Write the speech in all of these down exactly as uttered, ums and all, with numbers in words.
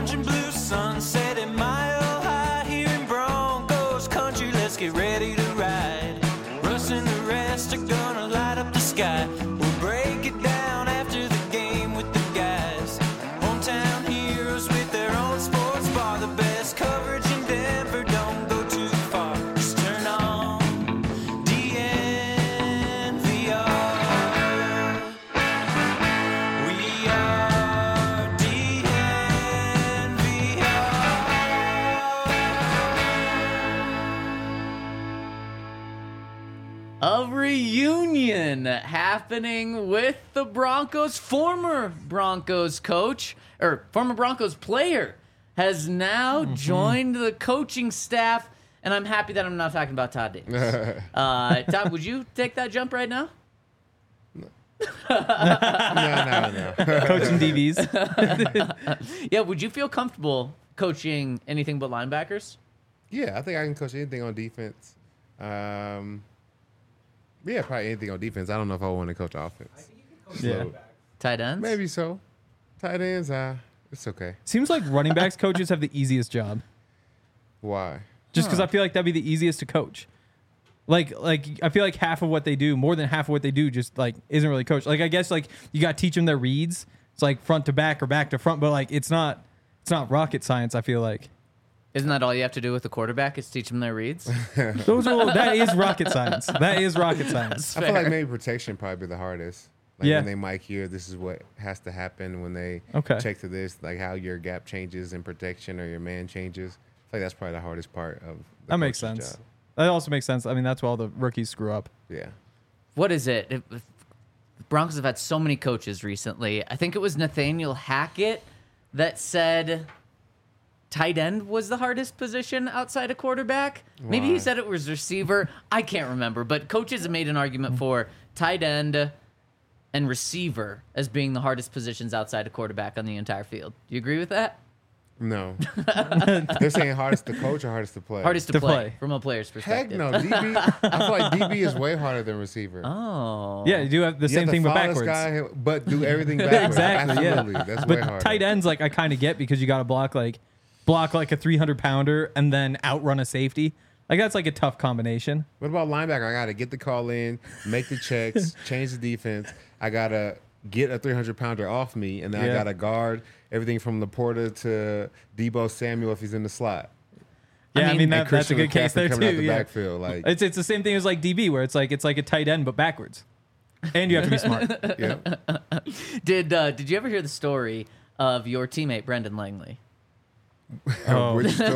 orange and blue sunset at Mile High here in Broncos country. Let's get ready to ride. Russ and the rest are gonna light up the sky. We'll break it down after the game with the guys. Hometown heroes with their own sports bar. The best coverage in Denver, don't go too far. Just turn on D N V R. We are D N V R. A reunion happening with the Broncos. Former Broncos coach, or former Broncos player, has now mm-hmm. joined the coaching staff, and I'm happy that I'm not talking about Todd Davis. uh, Todd, would you take that jump right now? No, no, no. Coaching D Bs. Yeah, would you feel comfortable coaching anything but linebackers? Yeah, I think I can coach anything on defense. Um, yeah, probably anything on defense. I don't know if I want to coach offense. Yeah. So, Tight ends? maybe so. Tight ends, uh, it's okay. Seems like running backs coaches have the easiest job. Why? Just because I feel like that'd be the easiest to coach. Like, like I feel like half of what they do, more than half of what they do, just like isn't really coached. Like, I guess like you got to teach them their reads. It's like front to back or back to front, but like it's not, it's not rocket science. I feel like. Isn't that all you have to do with the quarterback is teach them their reads? Those are that is rocket science. That is rocket science. I feel like maybe protection probably be the hardest. Like Yeah. when they might hear this is what has to happen when they Okay. check to this, like how your gap changes in protection or your man changes. I feel like that's probably the hardest part of the That makes coach's sense. job. That also makes sense. I mean, that's why all the rookies screw up. Yeah. What is it? It- the Broncos have had so many coaches recently. I think it was Nathaniel Hackett that said tight end was the hardest position outside of quarterback. Maybe he Why? said it was receiver. I can't remember. But coaches have made an argument for tight end and receiver as being the hardest positions outside of quarterback on the entire field. Do you agree with that? No. They're saying hardest to coach or hardest to play? Hardest to, To play, play. from a player's Heck perspective. no. D B, I feel like D B is way harder than receiver. Oh. Yeah, you do have the You same have thing to but follow this backwards. guy, but do everything backwards. Exactly, yeah. Absolutely. That's way But harder. tight ends, like I kind of get because you got to block like block like a three hundred pounder and then outrun a safety. Like that's like a tough combination. What about linebacker? I got to get the call in, make the checks, change the defense. I got to get a three hundred pounder off me, and then Yeah. I got to guard everything from Laporta to Debo Samuel if he's in the slot. Yeah, I mean, mean, that, And that's a Christian good case McCaffrey there coming out too. the Yeah. backfield, like, It's it's the same thing as like D B where it's like it's like a tight end but backwards, and you have to be smart. yeah. Did uh, Did you ever hear the story of your teammate Brendan Langley? Oh. We're still-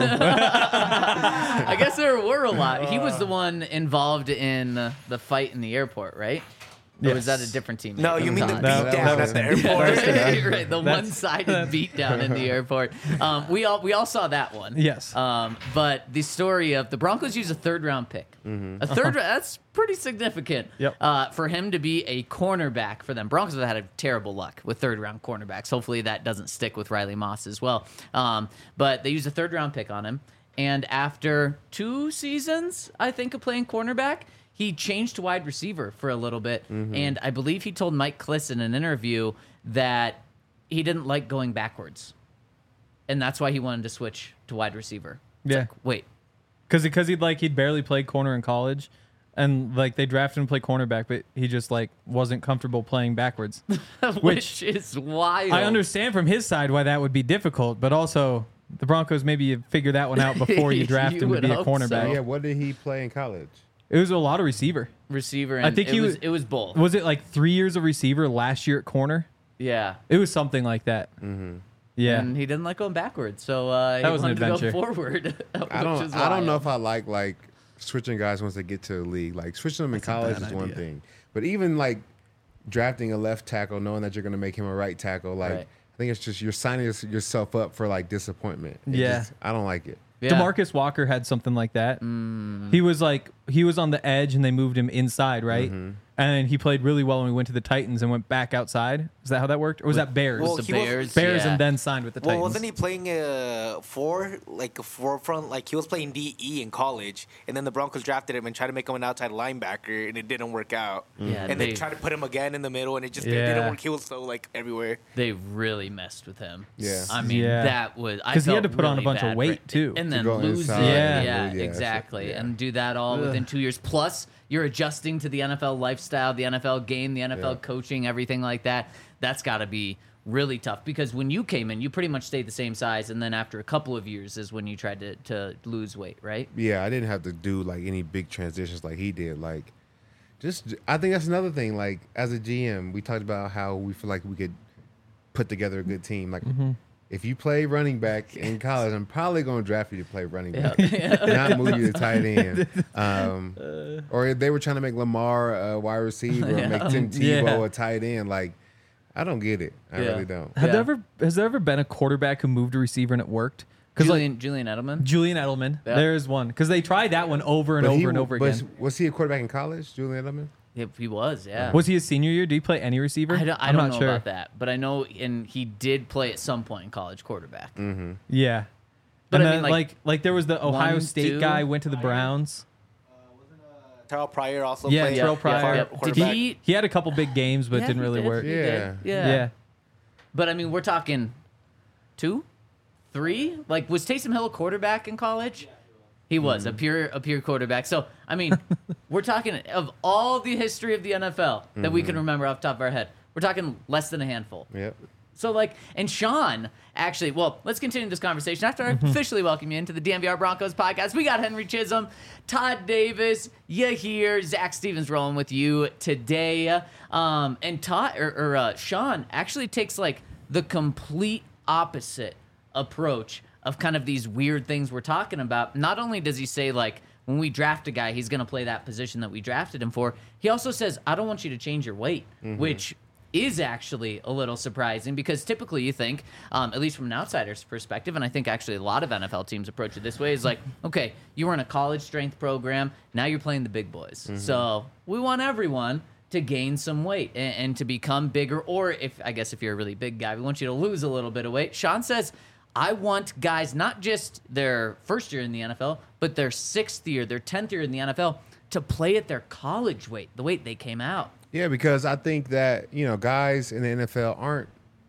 I guess there were a lot. He was the one involved in uh, the fight in the airport, right? Or was Yes. that a different team? No, you mean the No, beat that down was- at the that airport. right, the That's- one-sided beatdown in the airport. Um, we all we all saw that one. Yes. Um, but the story of the Broncos use a third-round pick. A third that's pretty significant. Yep. Uh, for him to be a cornerback for them. Broncos have had a terrible luck with third-round cornerbacks. Hopefully that doesn't stick with Riley Moss as well. Um, but they used a third-round pick on him, and after two seasons, I think, of playing cornerback, he changed to wide receiver for a little bit, and I believe he told Mike Kliss in an interview that he didn't like going backwards, and that's why he wanted to switch to wide receiver. It's Yeah. like, wait, Because because he'd like he'd barely played corner in college, and like they drafted him to play cornerback, but he just like wasn't comfortable playing backwards. which is wild. I understand from his side why that would be difficult, but also the Broncos maybe you figure that one out before you draft You him to would be a hope cornerback. so. yeah, what did he play in college? It was a lot of receiver. receiver. And I think it he was, was- it was both. Was it like three years of receiver last year at corner? Yeah. It was something like that. Mm-hmm. Yeah. And he didn't like going backwards, so uh, he That was an wanted to go adventure. forward. I which don't. is I don't know wild. if I like like switching guys once they get to the league. Like switching them in college is one thing, but even like drafting a left tackle, knowing that you're going to make him a right tackle, like Right. I think it's just you're signing your- yourself up for like disappointment. It Yeah. just- I don't like it. Yeah. DeMarcus Walker had something like that. He was like he was on the edge and they moved him inside, right? And he played really well when we went to the Titans and went back outside. Is that how that worked? Or was that Bears? Well, the he was- Bears, Bears yeah. and then signed with the Well, Titans. wasn't he playing uh, four, like a forefront? Like he was playing D E in college, and then the Broncos drafted him and tried to make him an outside linebacker, and it didn't work out. Yeah, and they- they tried to put him again in the middle, and it just it Yeah. didn't work. He was so like everywhere. They really messed with him. Yeah. I mean, Yeah. that was I 'Cause he had felt to put on a really bunch of bad weight, for- too. and To then go lose inside it. and Yeah, lose- yeah, exactly, yeah. and do that all Ugh. within two years. Plus, you're adjusting to the N F L lifestyle, the N F L game, the N F L Yeah. coaching, everything like that. That's got to be really tough because when you came in, you pretty much stayed the same size, and then after a couple of years is when you tried to, to lose weight, right? Yeah, I didn't have to do like any big transitions like he did. Like, just I think that's another thing. Like, as a G M, we talked about how we feel like we could put together a good team. Like, if you play running back in college, I'm probably going to draft you to play running back, not move you to tight end. Um, or if they were trying to make Lamar a wide receiver, or make Tim Tebow Yeah. a tight end. Like, I don't get it. I Yeah. really don't. Have Yeah. there ever has there ever been a quarterback who moved a receiver and it worked? Because like Julian, Julian Edelman. Julian Edelman, Yeah. there's one. Because they tried that one over and But over he- and over but again. was he a quarterback in college, Julian Edelman? Yeah, he was, yeah. Was he his senior year? Did he play any receiver? I don't, I I'm don't not know sure. about that, but I know, and he did play at some point in college quarterback. Yeah. But and I then, mean, like, like, like there was the Ohio one, State two- guy went to the Browns. Terrell Pryor also Yeah, played. Terrell Pryor. Yep. Did quarterback. he? He had a couple big games, but Yeah, didn't he really did, work. he did, Yeah. Yeah. Yeah. But I mean, we're talking two, three. Like, was Taysom Hill a quarterback in college? He was a pure a pure quarterback. So I mean, we're talking of all the history of the N F L that we can remember off the top of our head. We're talking less than a handful. Yep. So like, and Sean actually, well, let's continue this conversation after I officially welcome you into the D M V R Broncos podcast. We got Henry Chisholm, Todd Davis, you here, Zach Stevens rolling with you today, um, and Todd or, or uh, Sean actually takes like the complete opposite approach of kind of these weird things we're talking about. Not only does he say like, when we draft a guy, he's going to play that position that we drafted him for. He also says, I don't want you to change your weight, which is actually a little surprising because typically you think, um, at least from an outsider's perspective, and I think actually a lot of N F L teams approach it this way, is like, okay, you were in a college strength program, now you're playing the big boys. So we want everyone to gain some weight and, and to become bigger, or if, I guess if you're a really big guy, we want you to lose a little bit of weight. Sean says, I want guys, not just their first year in the N F L, but their sixth year, their tenth year in the N F L, to play at their college weight, the weight they came out. Yeah, because I think that, you know, guys in the N F L aren't,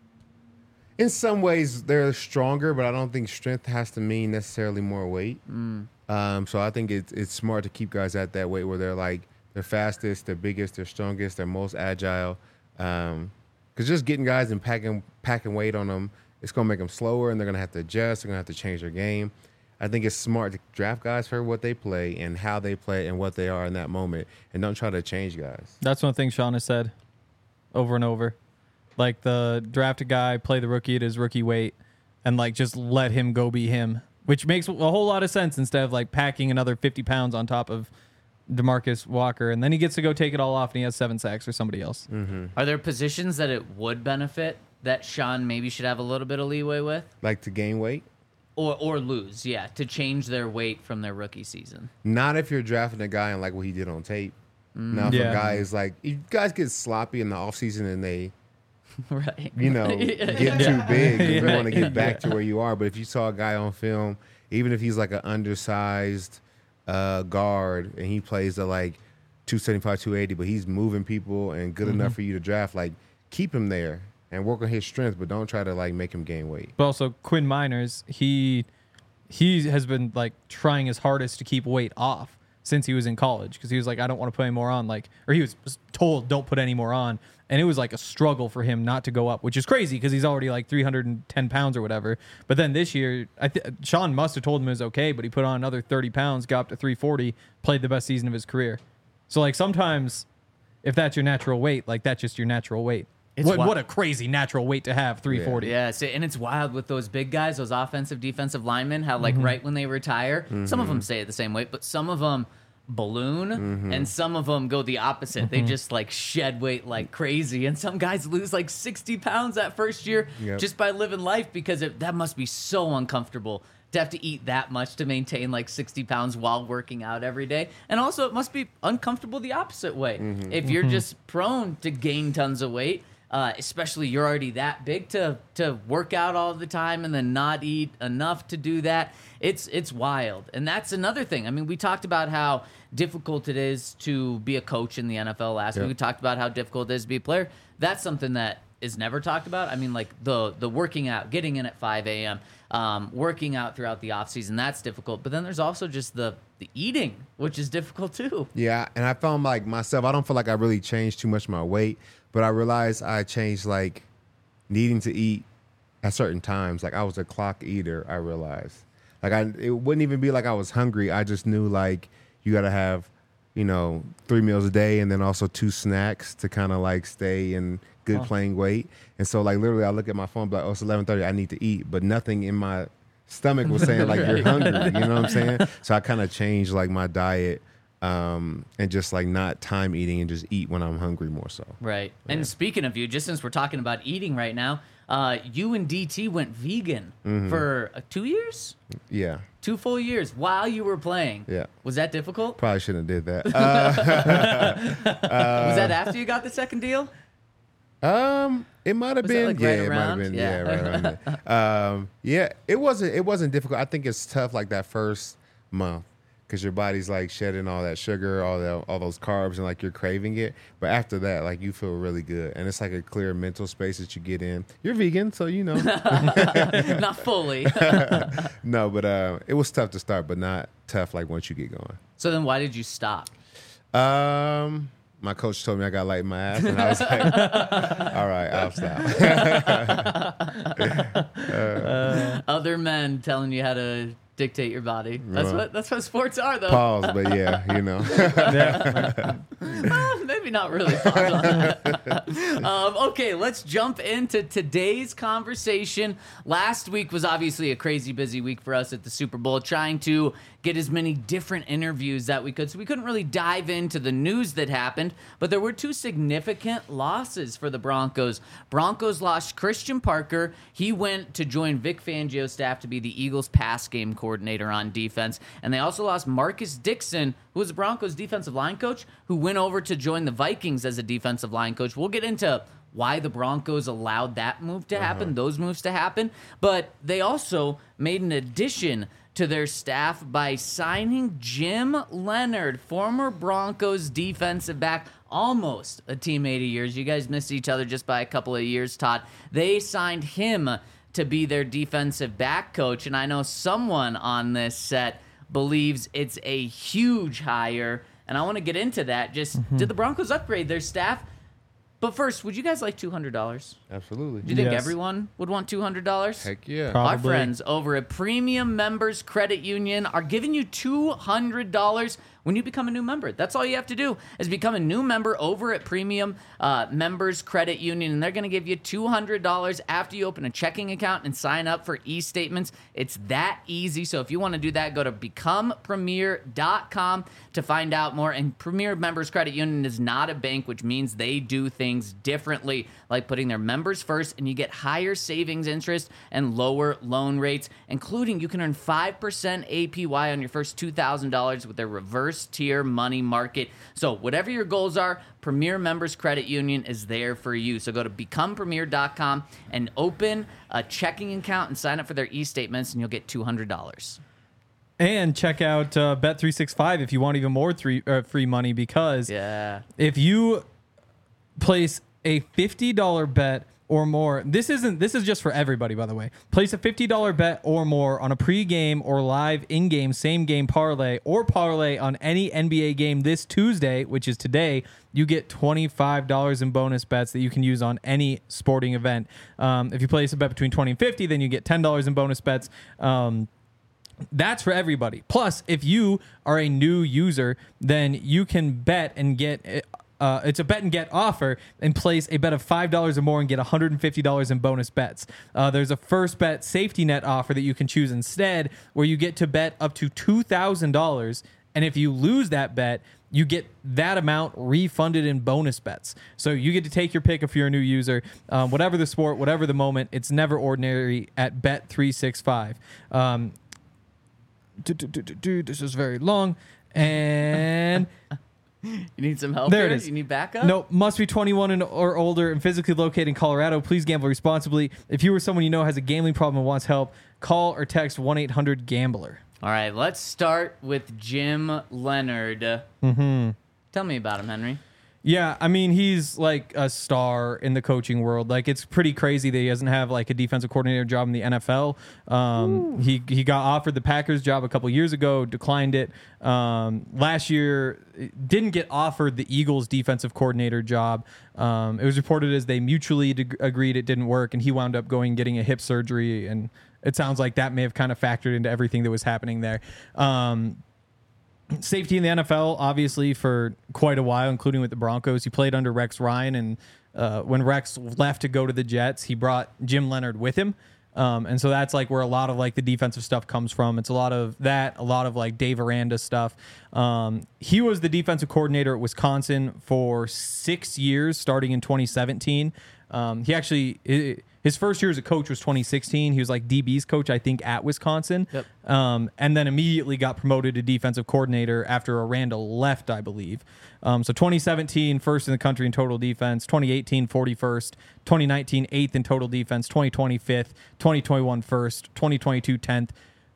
in some ways, they're stronger, but I don't think strength has to mean necessarily more weight. Um, so I think it's it's smart to keep guys at that weight where they're like, they're fastest, they're biggest, they're strongest, they're most agile. Um, because just getting guys and packing packing weight on them, it's going to make them slower, and they're going to have to adjust. They're going to have to change their game. I think it's smart to draft guys for what they play and how they play and what they are in that moment, and don't try to change guys. That's one thing Sean has said over and over. Like the draft a guy, play the rookie at his rookie weight, and like just let him go be him, which makes a whole lot of sense instead of like packing another fifty pounds on top of DeMarcus Walker, and then he gets to go take it all off and he has seven sacks or somebody else. Are there positions that it would benefit that Sean maybe should have a little bit of leeway with? Like to gain weight? Or or lose, yeah, to change their weight from their rookie season. Not if you're drafting a guy and like what he did on tape. Now, if Yeah. a guy is like, if guys get sloppy in the offseason and they, Right. you know, get too big, you want to get back to where you are. But if you saw a guy on film, even if he's like an undersized uh, guard and he plays at like two seventy-five, two eighty, but he's moving people and good enough for you to draft, like keep him there and work on his strength, but don't try to like make him gain weight. But also Quinn Miners, he he has been like trying his hardest to keep weight off since he was in college because he was like, I don't want to put any more on, like, or he was told don't put any more on, and it was like a struggle for him not to go up, which is crazy because he's already like three hundred ten pounds or whatever. But then this year, I th- Sean must have told him it was okay, but he put on another thirty pounds, got up to three forty, played the best season of his career. So like sometimes, if that's your natural weight, like that's just your natural weight. It's What, wild. what a crazy natural weight to have, three forty. Yeah, so, and it's wild with those big guys, those offensive, defensive linemen, how like right when they retire, some of them stay at the same weight, but some of them balloon and some of them go the opposite. They just like shed weight like crazy. And some guys lose like sixty pounds that first year Yep. just by living life because it, that must be so uncomfortable to have to eat that much to maintain like sixty pounds while working out every day. And also it must be uncomfortable the opposite way. If you're just prone to gain tons of weight, uh, especially you're already that big to to work out all the time and then not eat enough to do that. It's it's wild, and that's another thing. I mean, we talked about how difficult it is to be a coach in the N F L last Yep. week. We talked about how difficult it is to be a player. That's something that is never talked about. I mean, like the the working out, getting in at five a.m., um, working out throughout the offseason, that's difficult. But then there's also just the, the eating, which is difficult too. Yeah, and I found like myself, I don't feel like I really changed too much of my weight, but I realized I changed like needing to eat at certain times. Like I was a clock eater, I realized. Like I it wouldn't even be like I was hungry. I just knew like you got to have, you know, three meals a day and then also two snacks to kind of like stay in good Huh. playing weight. And so like literally I look at my phone like, oh, it's eleven thirty, I need to eat, but nothing in my stomach was saying like you're hungry, you know what I'm saying? So I kind of changed like my diet um, and just like not time eating and just eat when I'm hungry more so. Right. And speaking of you, just since we're talking about eating right now, uh, you and D T went vegan Mm-hmm. for uh, two years? Yeah, Two full years while you were playing. Yeah. Was that difficult? probably shouldn't have did that. Uh, Was that after you got the second deal? Um, it might have Was that, been, like, yeah, right it might around? have been, Yeah. yeah, right around there. Um, yeah, it wasn't, it wasn't difficult. I think it's tough like that first month because your body's like shedding all that sugar, all that, all those carbs, and like you're craving it. But after that, like you feel really good, and it's like a clear mental space that you get in. You're vegan, so you know. Not fully. No, but uh, it was tough to start, but not tough like once you get going. So then why did you stop? Um. My coach told me I got light in my ass, and I was like, "All right, I'll stop." Other men telling you how to dictate your body. That's Right. what that's what sports are, though. Pause, but yeah, you know. Well, maybe not really. um, okay, let's jump into today's conversation. Last week was obviously a crazy busy week for us at the Super Bowl, trying to get as many different interviews that we could. So we couldn't really dive into the news that happened, but there were two significant losses for the Broncos. Broncos lost Christian Parker. He went to join Vic Fangio's staff to be the Eagles pass game coordinator on defense. And they also lost Marcus Dixon, who was the Broncos defensive line coach, who went over to join the Vikings as a defensive line coach. We'll get into why the Broncos allowed that move to happen, uh-huh. those moves to happen. But they also made an addition to their staff by signing Jim Leonard, former Broncos defensive back, almost a teammate of yours. You guys missed each other just by a couple of years, Todd. They signed him to be their defensive back coach, and I know someone on this set believes it's a huge hire, and I want to get into that. Just, mm-hmm. did the Broncos upgrade their staff? But first, would you guys like two hundred dollars? Absolutely. Do you think Yes. everyone would want two hundred dollars? Heck yeah. Probably. Our friends over at Premium Members Credit Union are giving you two hundred dollars when you become a new member. That's all you have to do is become a new member over at Premium uh, Members Credit Union, and they're going to give you two hundred dollars after you open a checking account and sign up for e-statements. It's that easy. So if you want to do that, go to become premier dot com to find out more. And Premier Members Credit Union is not a bank, which means they do things differently, like putting their members first, and you get higher savings interest and lower loan rates, including you can earn five percent A P Y on your first two thousand dollars with their reverse tier money market. So whatever your goals are, Premier Members Credit Union is there for you. So go to become premier dot com and open a checking account and sign up for their e-statements, and you'll get two hundred dollars. And check out uh, Bet three sixty-five if you want even more three, uh, free money, because Yeah. if you place a fifty dollars bet or more, this isn't this is just for everybody, by the way. Place a fifty dollars bet or more on a pregame or live in-game same game parlay or parlay on any N B A game this Tuesday, which is today. You get twenty-five dollars in bonus bets that you can use on any sporting event. Um, if you place a bet between twenty and fifty, then you get ten dollars in bonus bets. Um, That's for everybody. Plus, if you are a new user, then you can bet and get uh, it's a bet and get offer and place a bet of five dollars or more and get one hundred fifty dollars in bonus bets. Uh, there's a first bet safety net offer that you can choose instead, where you get to bet up to two thousand dollars. And if you lose that bet, you get that amount refunded in bonus bets. So you get to take your pick if you're a new user. Um, whatever the sport, whatever the moment, it's never ordinary at Bet three sixty-five. Um, Do, do, do, do, do. This is very long. And You need some help There it here? is. You need backup? Nope. Must be twenty-one and or older and physically located in Colorado. Please gamble responsibly. If you or someone you know has a gambling problem and wants help, call or text one eight hundred gambler. All right, let's start with Jim Leonard. Mm-hmm. Tell me about him, Henry. Yeah, I mean, he's like a star in the coaching world. Like, it's pretty crazy that he doesn't have like a defensive coordinator job in the N F L. Um, he he got offered the Packers job a couple years ago, declined it. Um, last year, didn't get offered the Eagles defensive coordinator job. Um, it was reported as they mutually de- agreed it didn't work, and he wound up going and getting a hip surgery. And it sounds like that may have kind of factored into everything that was happening there. Um, Safety in the N F L, obviously, for quite a while, including with the Broncos. He played under Rex Ryan, and uh, when Rex left to go to the Jets, he brought Jim Leonard with him. Um, and so that's like where a lot of like the defensive stuff comes from. It's a lot of that, a lot of like Dave Aranda stuff. Um, he was the defensive coordinator at Wisconsin for six years, starting in twenty seventeen. Um, he actually... It, His first year as a coach was twenty sixteen. He was like D B's coach, I think, at Wisconsin. Yep. Um, and then immediately got promoted to defensive coordinator after Aranda left, I believe. Um, so twenty seventeen, first in the country in total defense. twenty eighteen, forty-first. twenty nineteen, eighth in total defense. twenty twenty, fifth. twenty twenty-one, first. twenty twenty-two, tenth.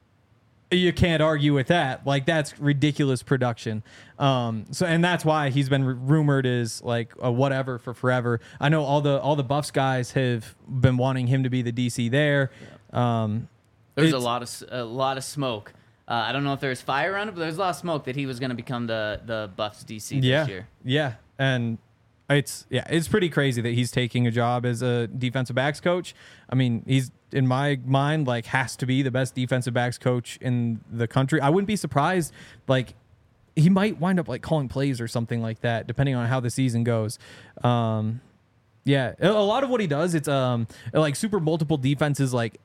You can't argue with that. Like, that's ridiculous production. Um, so, and that's why he's been r- rumored as like a whatever for forever. I know all the all the Buffs guys have been wanting him to be the D C there. Um, There's a lot of a lot of smoke. Uh, I don't know if there's fire on it, but there's a lot of smoke that he was going to become the the Buffs D C yeah, this year. Yeah, and it's yeah, it's pretty crazy that he's taking a job as a defensive backs coach. I mean, he's in my mind like has to be the best defensive backs coach in the country. I wouldn't be surprised. Like, he might wind up like calling plays or something like that, depending on how the season goes. Um, yeah, a a lot of what he does, it's um like super multiple defenses, like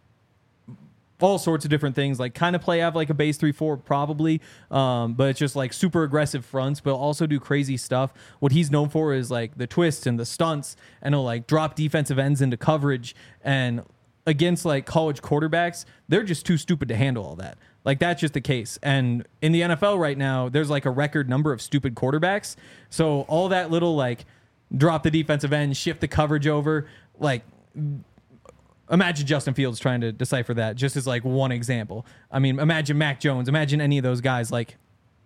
all sorts of different things, like kind of play have like a base three four probably, um, but it's just like super aggressive fronts, but also do crazy stuff. What he's known for is like the twists and the stunts, and he'll like drop defensive ends into coverage. And against like college quarterbacks, they're just too stupid to handle all that. Like, that's just the case. And in the N F L right now, there's like a record number of stupid quarterbacks. So all that little like drop the defensive end, shift the coverage over, like, imagine Justin Fields trying to decipher that, just as like one example. I mean, imagine Mac Jones, imagine any of those guys. Like,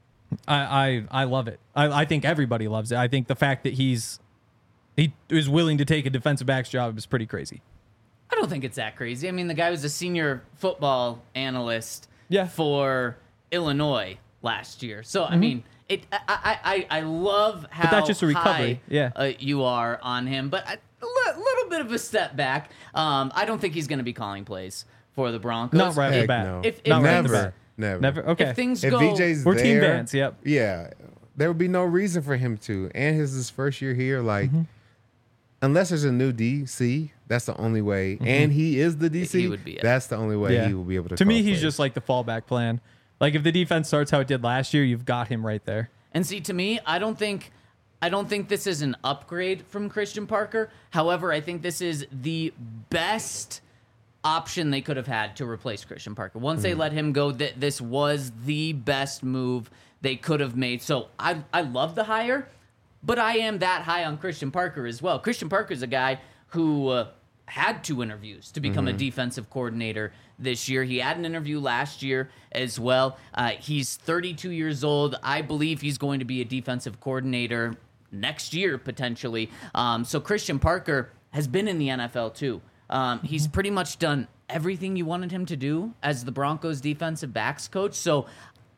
I I, I love it. I, I think everybody loves it. I think the fact that he's he is willing to take a defensive back's job is pretty crazy. I don't think it's that crazy. I mean, the guy was a senior football analyst Yeah. for Illinois last year. So, I mean, it. I, I, I I love how that's just a recovery. high, Yeah. uh, you are on him, but I, a li- little bit of a step back. Um, I don't think he's going to be calling plays for the Broncos. Not right off the Heck bat. no. If- if Not right off the never, bat. never, Never. Okay. If things If go, V J's We're there, team Vance, yep. Yeah, there would be no reason for him to. And his his first year here, like, Mm-hmm. unless there's a new D C, that's the only way. And he is the D C. He would be it. That's the only way Yeah. he will be able to. To me, call he's plays. just like the fallback plan. Like, if the defense starts how it did last year, you've got him right there. And see, to me, I don't think I don't think this is an upgrade from Christian Parker. However, I think this is the best option they could have had to replace Christian Parker. Once they let him go, th- this was the best move they could have made. So I I love the hire, but I am that high on Christian Parker as well. Christian Parker is a guy who uh, had two interviews to become a defensive coordinator this year. He had an interview last year as well. Uh, he's thirty-two years old. I believe he's going to be a defensive coordinator next year, potentially. Um, so Christian Parker has been in the N F L too. Um, he's pretty much done everything you wanted him to do as the Broncos defensive backs coach. So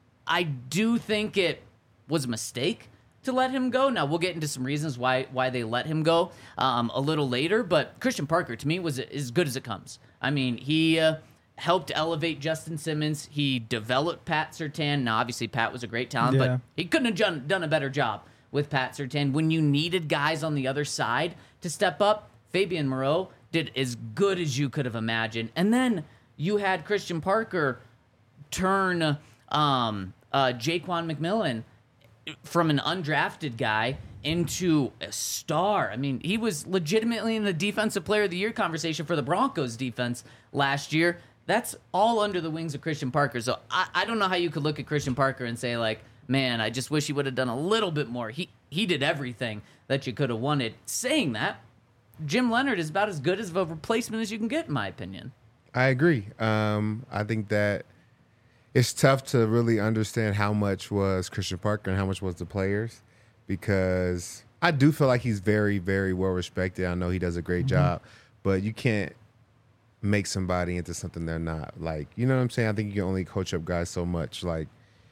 I do think it was a mistake to let him go. Now, we'll get into some reasons why why they let him go um, a little later, but Christian Parker, to me, was as good as it comes. I mean, he uh, helped elevate Justin Simmons. He developed Pat Surtain. Now, obviously, Pat was a great talent, Yeah. but he couldn't have done, done a better job with Pat Surtain. When you needed guys on the other side to step up, Fabian Moreau did as good as you could have imagined. And then you had Christian Parker turn um, uh, Jaquan McMillan from an undrafted guy into a star. I mean, he was legitimately in the Defensive Player of the Year conversation for the Broncos defense last year. That's all under the wings of Christian Parker. So I, I don't know how you could look at Christian Parker and say, like, man, I just wish he would have done a little bit more. He he did everything that you could have wanted. Saying that, Jim Leonard is about as good as of a replacement as you can get, in my opinion. I agree. Um, I think that it's tough to really understand how much was Christian Parker and how much was the players, because I do feel like he's very, very well respected. I know he does a great Mm-hmm. job, but you can't make somebody into something they're not. Like, you know what I'm saying? I think you can only coach up guys so much. Like,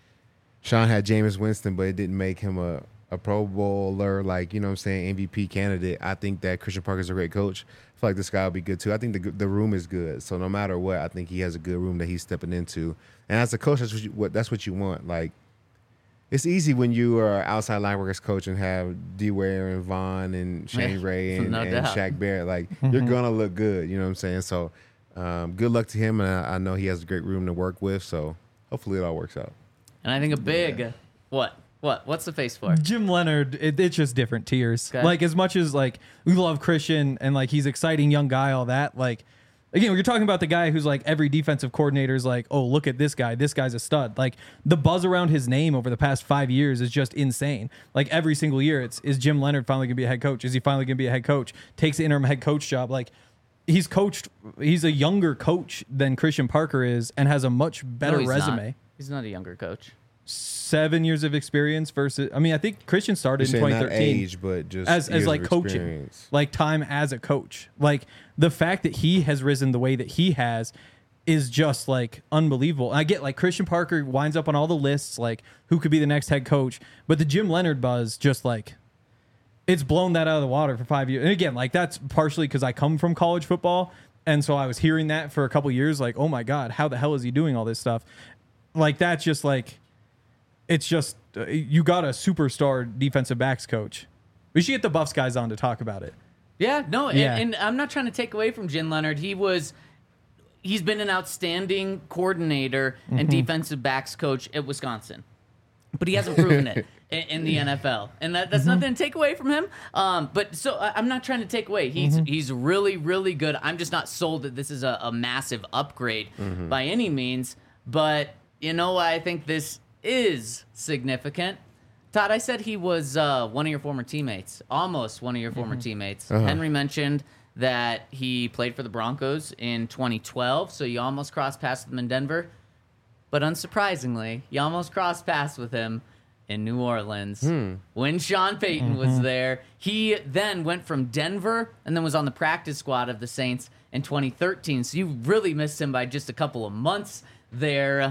Sean had Jameis Winston, but it didn't make him a, a Pro Bowler, like, you know what I'm saying, M V P candidate. I think that Christian Parker's a great coach. I feel like this guy will be good too. I think the the room is good. So no matter what, I think he has a good room that he's stepping into. And as a coach, that's what you, what, that's what you want. Like, it's easy when you are an outside linebackers coach and have D. Ware and Vaughn and Shane Yeah, Ray and, no and doubt. Shaq Barrett. Like, you're going to look good. You know what I'm saying? So um, good luck to him. And I, I know he has a great room to work with. So hopefully it all works out. And I think a big what what what's the face for? Jim Leonard, it, it's just different tiers. Okay. Like, as much as like we love Christian and like he's exciting young guy, all that, like again, you're talking about the guy who's like every defensive coordinator's like, oh, look at this guy, this guy's a stud. Like, the buzz around his name over the past five years is just insane. Like, every single year, it's is Jim Leonard finally gonna be a head coach? Is he finally gonna be a head coach? Takes the interim head coach job. Like, he's coached. He's a younger coach than Christian Parker is, and has a much better No, he's resume. Not. He's not a younger coach. Seven years of experience versus. I mean, I think Christian started You're in saying twenty not thirteen age, but just as as years like of coaching, experience. like time as a coach. Like, the fact that he has risen the way that he has is just like unbelievable. And I get like Christian Parker winds up on all the lists, like who could be the next head coach, but the Jim Leonard buzz just like it's blown that out of the water for five years. And again, like that's partially because I come from college football, and so I was hearing that for a couple years, like, oh my god, how the hell is he doing all this stuff? Like, that's just like. It's just, uh, you got a superstar defensive backs coach. We should get the Buffs guys on to talk about it. Yeah, no, Yeah. And, and I'm not trying to take away from Jim Leonard. He was, he's been an outstanding coordinator Mm-hmm. and defensive backs coach at Wisconsin, but he hasn't proven it in, in the N F L, and that, that's Mm-hmm. nothing to take away from him. Um, but so I- I'm not trying to take away. He's Mm-hmm. he's really really good. I'm just not sold that this is a, a massive upgrade Mm-hmm. by any means. But you know, why I think this is significant. Todd, I said he was uh, one of your former teammates, almost one of your former teammates. Henry mentioned that he played for the Broncos in twenty twelve, so you almost crossed paths with him in Denver. But unsurprisingly, you almost crossed paths with him in New Orleans when Sean Payton was there. He then went from Denver and then was on the practice squad of the Saints in twenty thirteen, so you really missed him by just a couple of months there.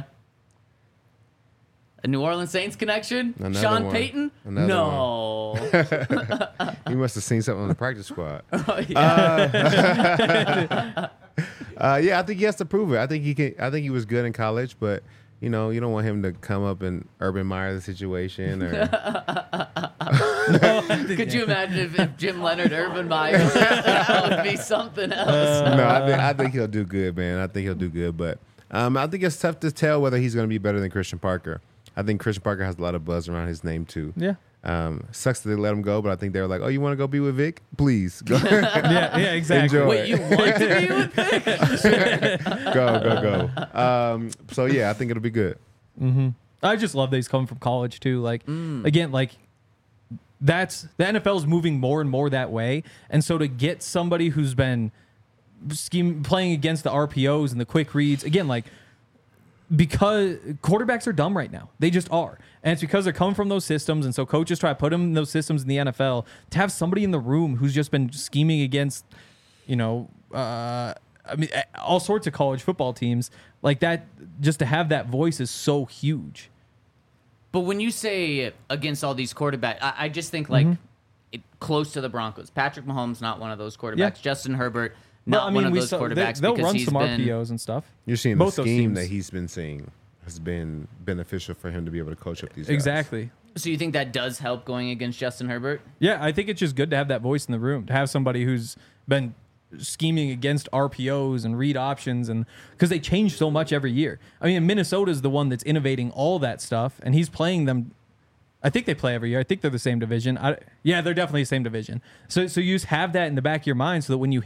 A New Orleans Saints connection? Another Sean one. Payton? Another no. He must have seen something on the practice squad. Oh, yeah. Uh, yeah, I think he has to prove it. I think he can. I think he was good in college, but you know, you don't want him to come up and Urban Meyer the situation. Or Could you imagine if, if Jim Leonard, Urban Meyer, that would be something else? no, I think I think he'll do good, man. I think he'll do good, but um, I think it's tough to tell whether he's going to be better than Christian Parker. I think Christian Parker has a lot of buzz around his name too. Yeah. Um, sucks that they let him go, but I think they were like, "Oh, you want to go be with Vic? Please go, Yeah, yeah, exactly. Enjoy. Wait, you want to be with Vic? go, go, go." Um, so yeah, I think it'll be good. I just love that he's coming from college too. Like, again, like that's the N F L is moving more and more that way, and so to get somebody who's been scheme playing against the R P Os and the quick reads, again, like because quarterbacks are dumb right now, they just are, and it's because they're coming from those systems, and so coaches try to put them in those systems in the N F L. To have somebody in the room who's just been scheming against, you know, uh, I mean, all sorts of college football teams like that, just to have that voice is so huge. But when you say against all these quarterbacks, I, I just think like it, close to the Broncos. Patrick Mahomes, not one of those quarterbacks. Yeah. Justin Herbert, Well, not I mean, one of we those saw- quarterbacks They, will because run he's some been. R P Os and stuff. You're seeing Both the those scheme teams. that he's been seeing has been beneficial for him to be able to coach up these guys. Exactly. So you think that does help going against Justin Herbert? Yeah, I think it's just good to have that voice in the room, to have somebody who's been scheming against R P Os and read options, and because they change so much every year. I mean, Minnesota's the one that's innovating all that stuff, and he's playing them. I think they play every year. I think they're the same division. I, yeah, they're definitely the same division. So, so you just have that in the back of your mind, so that when you hit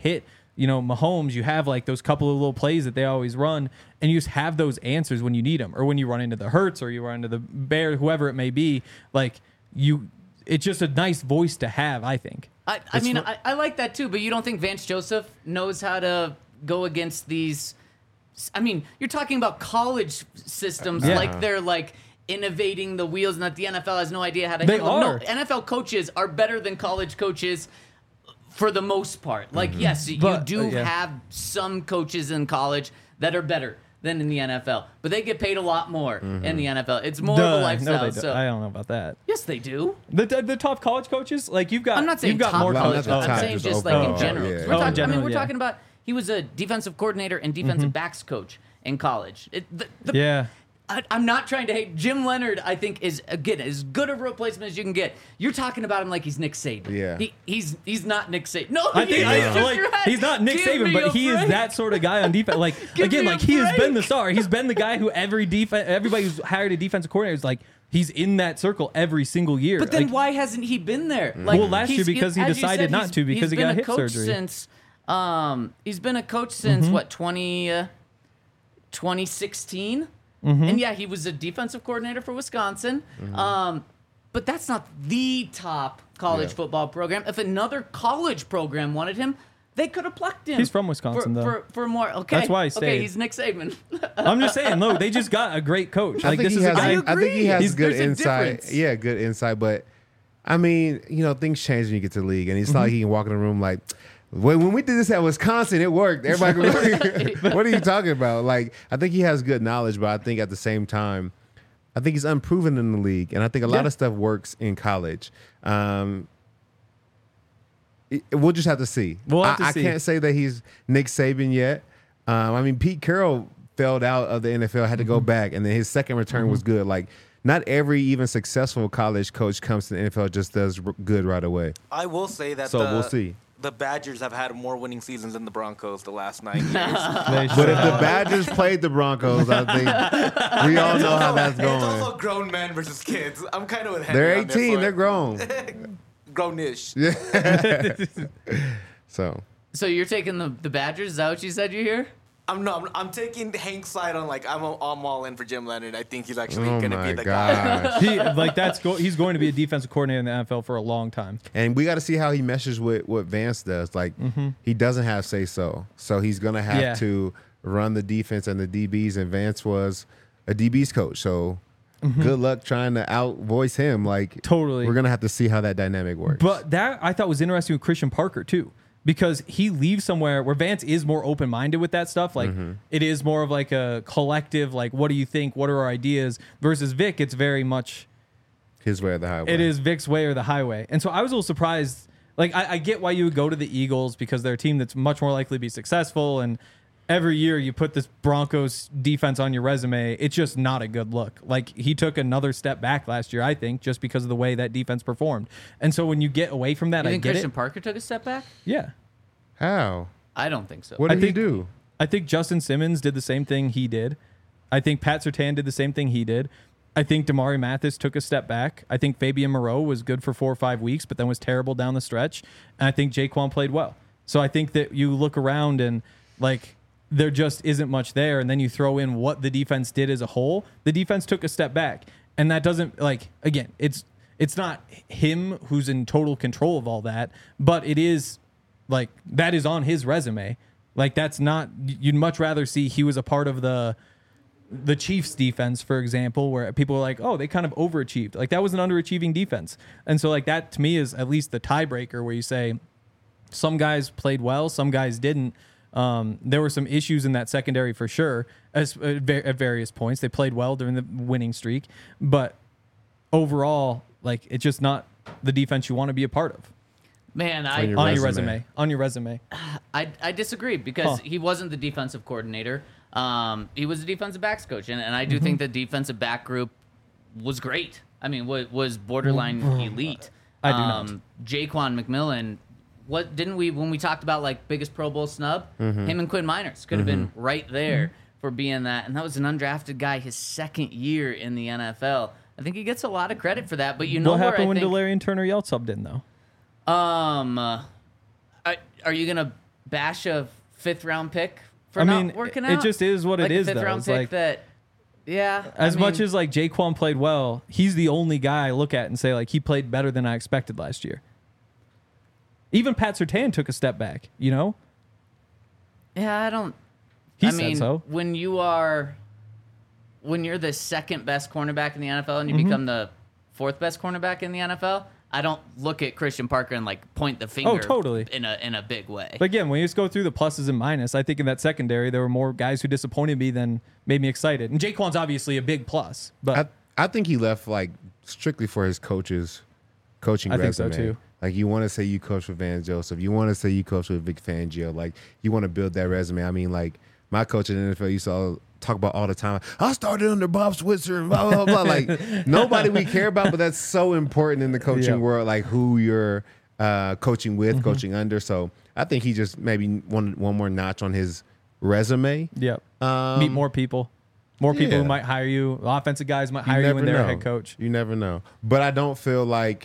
you know, Mahomes, you have like those couple of little plays that they always run, and you just have those answers when you need them, or when you run into the Hurts, or you run into the Bear, whoever it may be. Like you, it's just a nice voice to have, I think. I, I mean, I, I like that too, but you don't think Vance Joseph knows how to go against these? I mean, you're talking about college systems Yeah. like they're like innovating the wheels, and that the N F L has no idea how to They handle them. are. No, N F L coaches are better than college coaches for the most part. Like, yes, you But, do uh, yeah. have some coaches in college that are better than in the N F L, but they get paid a lot more in the N F L. It's more of Duh. a lifestyle. No, they so don't. I don't know about that. yes, they do. The, the the top college coaches, like you've got. I'm not saying you've got top more No, college. not the I'm top, saying just just like in overall, general. yeah. 'Cause Oh, We're in talking, I general, mean, we're yeah. talking about he was a defensive coordinator and defensive backs coach in college. It, the, the, Yeah. I, I'm not trying to hate Jim Leonard. I think is again as good a replacement as you can get. You're talking about him like he's Nick Saban. Yeah. he, he's he's not Nick Saban. No, I think he I, is. Shook like your head. he's not Nick Give Saban, me but a he is break. that sort of guy on defense. Like Give again, me a like he has been break. the star. He's been the guy who every defense, everybody who's hired a defensive coordinator is like he's in that circle every single year. But then Like, why hasn't he been there? Like, Well, last year he's- because he as you decided said, not he's- to because he's he been got a hip coach surgery. Since um, he's been a coach since Mm-hmm. what twenty, uh, twenty sixteen, Mm-hmm. and yeah, he was a defensive coordinator for Wisconsin. Um, but that's not the top college Yeah. football program. If another college program wanted him, they could have plucked him. He's from Wisconsin, for, though. For, for more, okay. That's why he Okay, stayed. he's Nick Saban. I'm just saying, look, they just got a great coach. I Like think this he is a has. guy. I I, think agree. he has He's- good there's a insight. difference. Yeah, good insight. But I mean, you know, things change when you get to the league, and it's not like he can walk in the room like, when, when we did this at Wisconsin, it worked. Everybody, could be like, what are you talking about? Like, I think he has good knowledge, but I think at the same time, I think he's unproven in the league, and I think a lot Yeah. of stuff works in college. Um, it- we'll just have to see. We'll have to I, see. I can't say that he's Nick Saban yet. Um, I mean, Pete Carroll failed out of the N F L, had to Mm-hmm. go back, and then his second return was good. Like, not every even successful college coach comes to the N F L just does r- good right away. I will say that So the, we'll see. the Badgers have had more winning seasons than the Broncos the last nine years. They But should- if the Badgers played the Broncos, I think we all know how that's It's also going. grown men versus kids. I'm kind of with Henry They're on this eighteen. one. They're grown. Grown-ish. So So you're taking the, the Badgers? Is that what you said you hear? I'm no. I'm, I'm taking Hank's side on like I'm. I'm all in for Jim Leonard. I think he's actually oh gonna my be the guy. gosh. he like that's go, he's going to be a defensive coordinator in the N F L for a long time. And we got to see how he meshes with what Vance does. Like, he doesn't have say so. So he's going to have Yeah. to run the defense and the D Bs. And Vance was a D Bs coach. So good luck trying to out voice him. Like, Totally. we're going to have to see how that dynamic works. But that I thought was interesting with Christian Parker too, because he leaves somewhere where Vance is more open minded with that stuff. Like it is more of like a collective, like what do you think? What are our ideas? Versus Vic, it's very much His way or the highway. it is Vic's way or the highway. And so I was a little surprised. Like I, I get why you would go to the Eagles because they're a team that's much more likely to be successful, and every year you put this Broncos defense on your resume, it's just not a good look. Like he took another step back last year, I think, just because of the way that defense performed. And so when you get away from that, You I think get Christian it. Parker took a step back? Yeah. How? I don't think so. What I did he think- do? I think Justin Simmons did the same thing he did. I think Pat Surtain did the same thing he did. I think Damari Mathis took a step back. I think Fabian Moreau was good for four or five weeks, but then was terrible down the stretch. And I think Jaquan played well. So I think that you look around and like there just isn't much there. And then you throw in what the defense did as a whole. The defense took a step back. And that doesn't like again, it's it's not him who's in total control of all that, but it is like that is on his resume. Like that's not you'd much rather see he was a part of the the Chiefs defense, for example, where people are like, oh, they kind of overachieved. Like that was an underachieving defense. And so like that to me is at least the tiebreaker where you say some guys played well, some guys didn't. Um, there were some issues in that secondary for sure as, at va- at various points. They played well during the winning streak, but overall, like it's just not the defense you want to be a part of. Man, I, on your On your resume. resume. On your resume. I I disagree because Huh. he wasn't the defensive coordinator. Um, he was the defensive backs coach, and, and I do Mm-hmm. think the defensive back group was great. I mean, was, was borderline elite. I do not. um, Jaquan McMillan. What didn't we when we talked about like biggest Pro Bowl snub? Mm-hmm. Him and Quinn Miners could have been right there for being that, and that was an undrafted guy his second year in the N F L. I think he gets a lot of credit for that. But you know What where happened I when think, Delarian Turner Yell subbed in though? um, uh, are, are you gonna bash a fifth round pick for I not mean, working it out. just is what it like is, a fifth though. round It's pick like- that, yeah. As I much mean, as like Jaquan played well, he's the only guy I look at and say like he played better than I expected last year. Even Pat Surtain took a step back, you know? yeah, I don't. He I said mean, so. when you are, when you're the second best cornerback in the N F L and you Mm-hmm. become the fourth best cornerback in the N F L, I don't look at Christian Parker and like point the finger. Oh, totally. in a in a big way. But again, when you just go through the pluses and minuses, I think in that secondary there were more guys who disappointed me than made me excited. And Jaquan's obviously a big plus, but I I think he left like strictly for his coaches coaching I think so, resume. too. Like you want to say you coach with Van Joseph, you want to say you coach with Vic Fangio, like you want to build that resume. I mean, like my coach in the N F L used to all talk about all the time. I started under Bob Switzer and blah blah blah. Like nobody we care about, but that's so important in the coaching Yeah. world. Like who you're uh, coaching with, coaching under. So I think he just maybe one one more notch on his resume. yeah. Um, Meet more people. More people yeah. who might hire you. Offensive guys might You hire you never when they're know. a head coach. You never know. But I don't feel like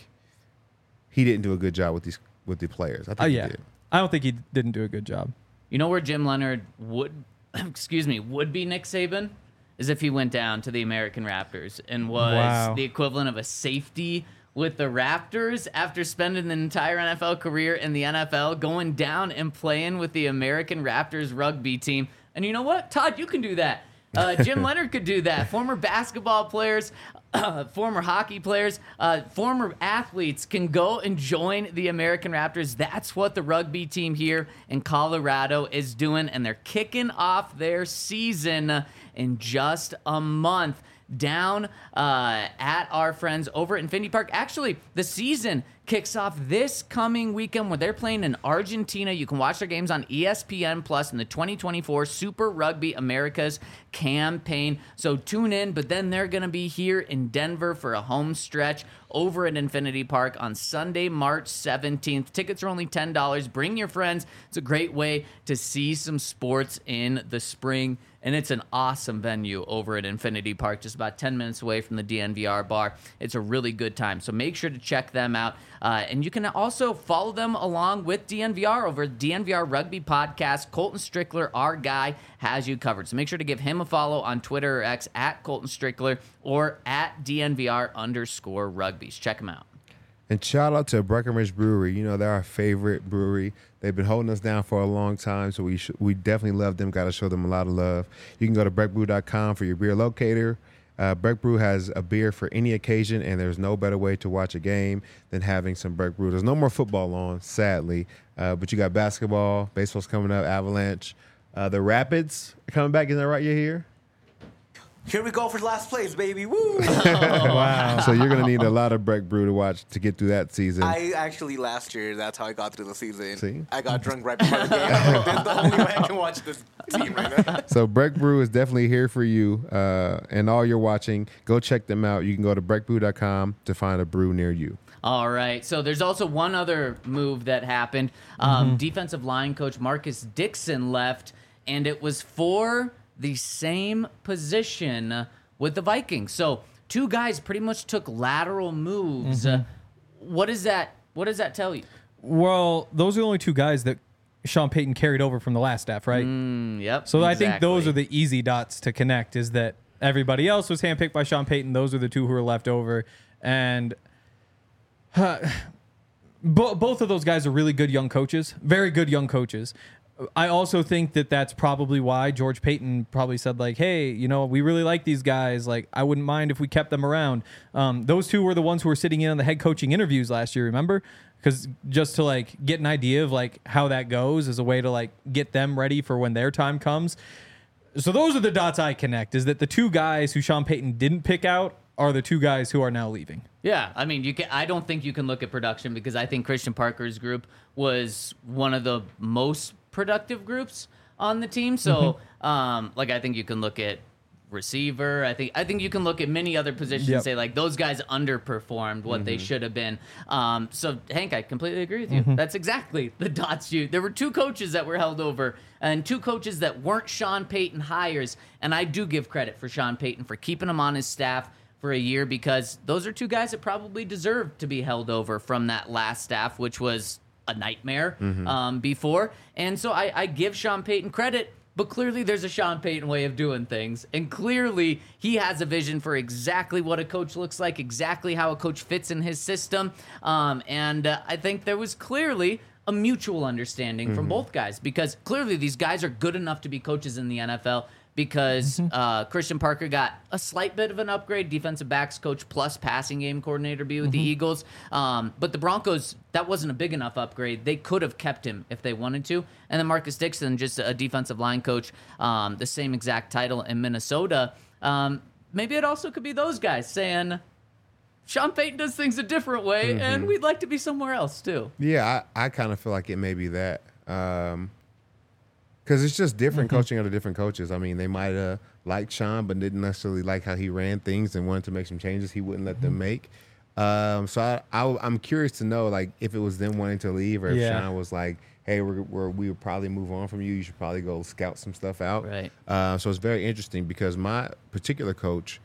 he didn't do a good job with these with the players. I think Oh, he yeah. did. I don't think he didn't do a good job. You know where Jim Leonard would, excuse me, would be Nick Saban? Is if he went down to the American Raptors and was Wow. the equivalent of a safety with the Raptors after spending an entire N F L career in the N F L, going down and playing with the American Raptors rugby team. And you know what? Todd, you can do that. Uh, Jim Leonard could do that. Former basketball players, uh, former hockey players, uh, former athletes can go and join the American Raptors. That's what the rugby team here in Colorado is doing, and they're kicking off their season in just a month down uh, at our friends over at Infinity Park. Actually, the season kicks off this coming weekend where they're playing in Argentina. You can watch their games on E S P N Plus in the twenty twenty-four Super Rugby Americas campaign. So tune in, but then they're going to be here in Denver for a home stretch over at Infinity Park on Sunday, March seventeenth. Tickets are only ten dollars. Bring your friends. It's a great way to see some sports in the spring. And it's an awesome venue over at Infinity Park, just about ten minutes away from the D N V R bar. It's a really good time. So make sure to check them out. Uh, and you can also follow them along with D N V R over at D N V R Rugby Podcast. Colton Strickler, our guy, has you covered. So make sure to give him a follow on Twitter or X at Colton Strickler or at D N V R underscore rugbies. Check them out. And shout out to Breckenridge Brewery. You know, they're our favorite brewery. They've been holding us down for a long time, so we sh- we definitely love them. Got to show them a lot of love. You can go to breck brew dot com for your beer locator. Uh, Breck Brew has a beer for any occasion, and there's no better way to watch a game than having some Breck Brew. There's no more football on, sadly, uh, but you got basketball, baseball's coming up, Avalanche. Uh, the Rapids are coming back. Is that right? You're here? Here we go for last place, baby. Woo! Wow. So you're going to need a lot of Breck Brew to watch to get through that season. I actually last year that's how I got through the season. See? I got drunk right before the game. That's the only way I can watch this team right now. So Breck Brew is definitely here for you. Uh, and all you're watching, go check them out. You can go to breck brew dot com to find a brew near you. All right. So there's also one other move that happened. Um, Defensive line coach Marcus Dixon left, and it was for the same position with the Vikings. So two guys pretty much took lateral moves. Uh, what is that? What does that tell you? Well, those are the only two guys that Sean Payton carried over from the last staff, right? Mm, yep. So I think those exactly. are the easy dots to connect, is that everybody else was handpicked by Sean Payton. Those are the two who were left over. And uh, bo- both of those guys are really good young coaches, very good young coaches. I also think that that's probably why George Payton probably said, like, hey, you know, we really like these guys. Like, I wouldn't mind if we kept them around. Um, those two were the ones who were sitting in on the head coaching interviews last year, remember? Because just to, like, get an idea of, like, how that goes as a way to, like, get them ready for when their time comes. So those are the dots I connect, is that the two guys who Sean Payton didn't pick out are the two guys who are now leaving. Yeah, I mean, you can. I don't think you can look at production because I think Christian Parker's group was one of the most productive groups on the team. So, um, like, I think you can look at receiver. I think I think you can look at many other positions Yep. and say, like, those guys underperformed what they should have been. Um, so, Hank, I completely agree with you. That's exactly the dots you. There were two coaches that were held over and two coaches that weren't Sean Payton hires. And I do give credit for Sean Payton for keeping them on his staff for a year, because those are two guys that probably deserved to be held over from that last staff, which was a nightmare um, before. And so I, I give Sean Payton credit, but clearly there's a Sean Payton way of doing things. And clearly he has a vision for exactly what a coach looks like, exactly how a coach fits in his system. Um, and uh, I think there was clearly a mutual understanding from both guys, because clearly these guys are good enough to be coaches in the N F L, because uh, Christian Parker got a slight bit of an upgrade, defensive backs coach plus passing game coordinator be with the Eagles. Um, but the Broncos, that wasn't a big enough upgrade. They could have kept him if they wanted to. And then Marcus Dixon, just a defensive line coach, um, the same exact title in Minnesota. Um, maybe it also could be those guys saying, Sean Payton does things a different way, mm-hmm. and we'd like to be somewhere else too. Yeah, I, I kind of feel like it may be that. Um, Because it's just different Mm-hmm. coaching under different coaches. I mean, they might have liked Sean, but didn't necessarily like how he ran things and wanted to make some changes he wouldn't let them Mm-hmm. make. Um, so I, I, I'm curious to know, like, if it was them wanting to leave, or if Yeah. Sean was like, "Hey, we're, we're we would probably move on from you. You should probably go scout some stuff out." Right. Uh, so it's very interesting because my particular coach,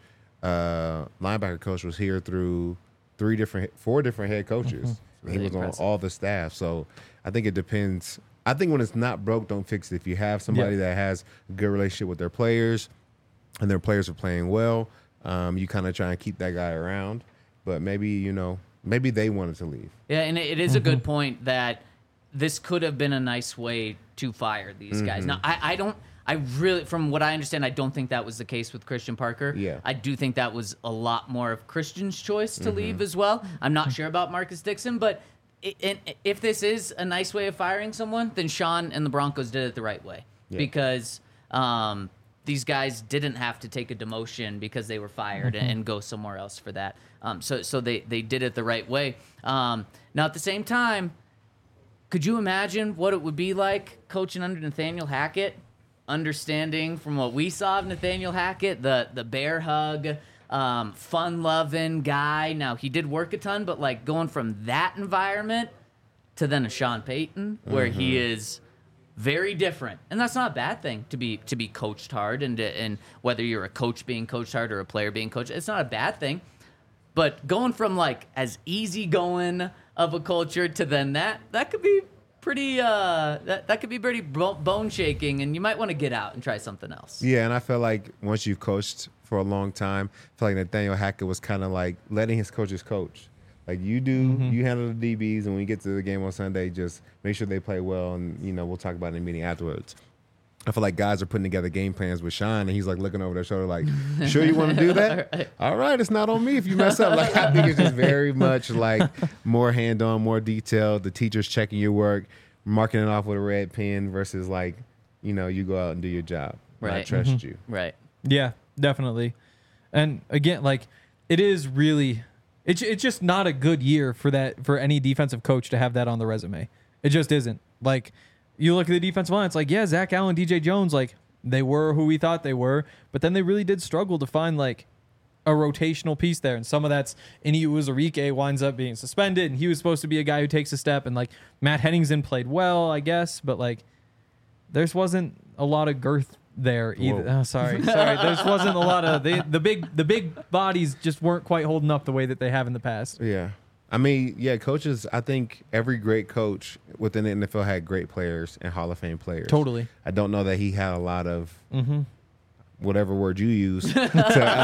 uh, linebacker coach, was here through three different, four different head coaches. Mm-hmm. He Really was impressive. on all the staff. So I think it depends. I think when it's not broke, don't fix it. If you have somebody Yeah. that has a good relationship with their players and their players are playing well, um, you kind of try and keep that guy around. But maybe, you know, maybe they wanted to leave. Yeah, and it is a good point that this could have been a nice way to fire these guys. Now, I, I don't, I really, from what I understand, I don't think that was the case with Christian Parker. Yeah. I do think that was a lot more of Christian's choice to leave as well. I'm not sure about Marcus Dixon, but it, it, if this is a nice way of firing someone, then Sean and the Broncos did it the right way. Yeah. Because um, these guys didn't have to take a demotion because they were fired and, and go somewhere else for that. Um, so so they, they did it the right way. Um, now, at the same time, could you imagine what it would be like coaching under Nathaniel Hackett? Understanding from what we saw of Nathaniel Hackett, the the bear hug, um, fun-loving guy. Now, he did work a ton, but like going from that environment to then a Sean Payton, where he is very different, and that's not a bad thing to be to be coached hard, and to, and whether you're a coach being coached hard or a player being coached, it's not a bad thing. But going from like as easygoing of a culture to then that that could be pretty uh that, that could be pretty bo- bone shaking, and you might want to get out and try something else. Yeah, and I feel like once you've coached for a long time, I feel like Nathaniel Hackett was kind of like letting his coaches coach. Like, you do, you handle the D Bs, and when you get to the game on Sunday, just make sure they play well, and, you know, we'll talk about it in the meeting afterwards. I feel like guys are putting together game plans with Sean, and he's like looking over their shoulder like, sure you want to do that? Right. All right, it's not on me if you mess up. Like, I think it's just very much like more hand-on, more detailed. The teacher's checking your work, marking it off with a red pen versus like, you know, you go out and do your job. And I Right. trust you. Right. Yeah, definitely. And again, like, it is really, it's it's just not a good year for that, for any defensive coach to have that on the resume. It just isn't. Like, you look at the defensive line, it's like, yeah, Zach Allen, D J Jones, like, they were who we thought they were, but then they really did struggle to find like a rotational piece there. And some of that's Ini Uwazurike winds up being suspended, and he was supposed to be a guy who takes a step, and like Matt Henningsen played well, I guess, but like there wasn't a lot of girth there either. Whoa. Oh, sorry, sorry. There wasn't a lot of the the big the big bodies just weren't quite holding up the way that they have in the past. Yeah. I mean, yeah, coaches, I think every great coach within the N F L had great players and Hall of Fame players. Totally. I don't know that he had a lot of Mm-hmm. whatever word you use to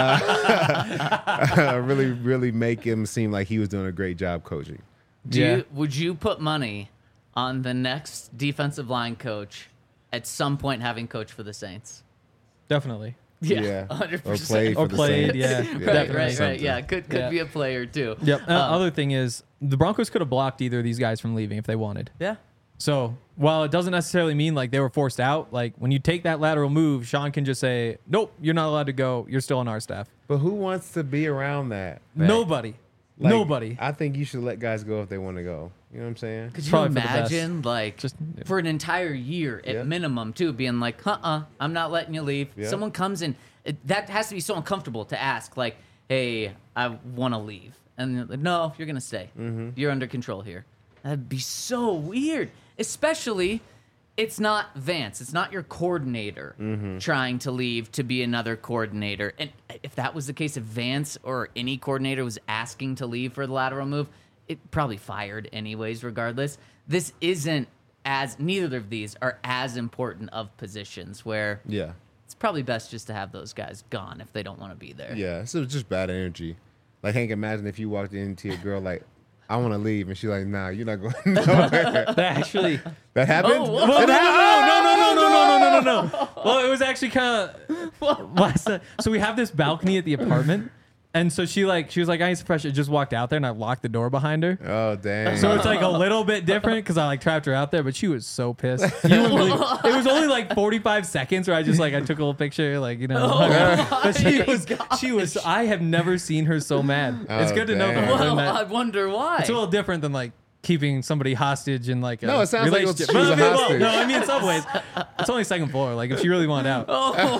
uh, really, really make him seem like he was doing a great job coaching. Do Yeah. you, would you put money on the next defensive line coach at some point having coached for the Saints? Definitely. Yeah. one hundred Or percent. played for Or the played, Saints. yeah. Right, Definitely. right, right. Something. Yeah, could could Yeah. be a player too. Yep. Uh, Um, other thing is, the Broncos could have blocked either of these guys from leaving if they wanted. Yeah. So while it doesn't necessarily mean like they were forced out, like when you take that lateral move, Sean can just say, "Nope, you're not allowed to go. You're still on our staff." But who wants to be around that? Right. Nobody. Like, Nobody. I think you should let guys go if they want to go. You know what I'm saying? Could you Probably for the best. imagine, like, Just- for an entire year at Yeah. minimum, too, being like, uh-uh, I'm not letting you leave. Yeah. Someone comes in. It, that has to be so uncomfortable to ask, like, hey, I want to leave. And they're like, no, you're going to stay. Mm-hmm. You're under control here. That'd be so weird. Especially, it's not Vance. It's not your coordinator Mm-hmm. trying to leave to be another coordinator. And if that was the case, if Vance or any coordinator was asking to leave for the lateral move, it probably fired anyways, regardless. This isn't as neither of these are as important of positions where Yeah. it's probably best just to have those guys gone if they don't want to be there. Yeah. So it's just bad energy. Like, Hank, imagine if you walked into a girl like, I want to leave, and she's like, nah, you're not going nowhere. That actually. That happened? Oh, whoa. Well, no, no, no, no, no, no, no, no, no, no. Well, it was actually kind of last night. So we have this balcony at the apartment, and so she like she was like, I need some fresh air. Just walked out there, and I locked the door behind her. Oh, dang. So it's like a little bit different because I like trapped her out there, but she was so pissed. You wouldn't believe it. It was only like forty-five seconds where I just like I took a little picture, like you know. hung her. But she was she was. I have never seen her so mad. It's Oh, good to know dang. that. Well, I wonder why. It's a little different than like keeping somebody hostage in like a No, it sounds like it was- relationship. she was Well, a I mean, well, hostage. no, I mean in some ways, it's only second floor. Like if she really wanted out, Oh,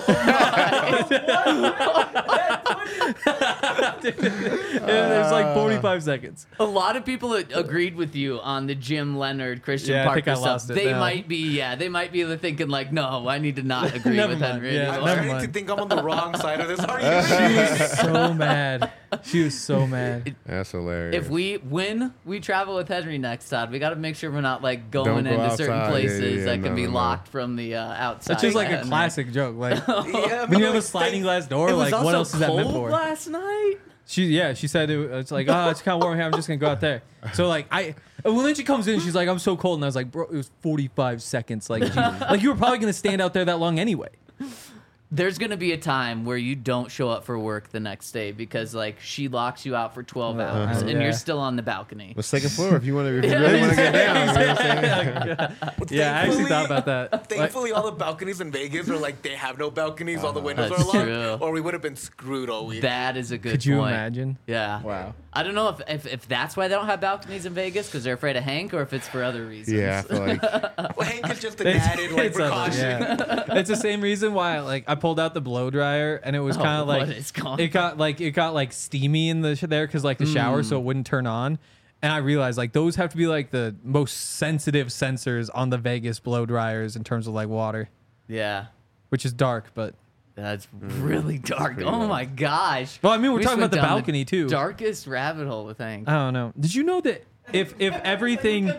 there's like forty-five seconds. a lot of people a- agreed with you on the Jim Leonard, Christian Yeah, I Parker think I stuff. lost it They now. might be, yeah, they might be thinking like, no, I need to not agree Never with mind, Henry yeah. I'm anymore. Never starting to mind. think I'm on the wrong side of this argument. She was so mad. She was so mad. That's hilarious. If we when we travel with Henry next time, we got to make sure we're not like going Don't go into certain outside. Yeah, places yeah, yeah. that can No, be no, no. locked from the uh, outside. It's just like a Henry. classic joke. Like Yeah, when you have but a sliding glass door, It was like also what else is that meant cold for? last night. She yeah, she said it, it's like oh, it's kind of warm here. I'm just gonna go out there. So like I, well then she comes in, she's like I'm so cold, and I was like bro, it was forty-five seconds. Like she, like you were probably gonna stand out there that long anyway. There's gonna be a time where you don't show up for work the next day because like she locks you out for twelve Uh-huh. hours and Yeah. you're still on the balcony. the second floor, if you want to, if you really want to get down, you know what I'm saying? Yeah, I actually thought about that. Like, Thankfully, all the balconies in Vegas are like they have no balconies. all the windows That's are locked, true. or we would have been screwed all week. That is a good could you point. imagine? Yeah. Wow. I don't know if, if, if that's why they don't have balconies in Vegas because they're afraid of Hank or if it's for other reasons. Yeah, I feel like Well, Hank is just an It's- added like it's other- precaution. yeah. It's the same reason why like I pulled out the blow dryer and it was Oh, kind of what like is going it got like it got like steamy in the sh- there because like the shower so it wouldn't turn on. And I realized like those have to be like the most sensitive sensors on the Vegas blow dryers in terms of like water, Yeah. which is dark, but That's really dark. pretty Oh dark. my gosh. well, I mean we're We talking just about the went down balcony too. Darkest rabbit hole with Hank. I don't know. Did you know that if if everything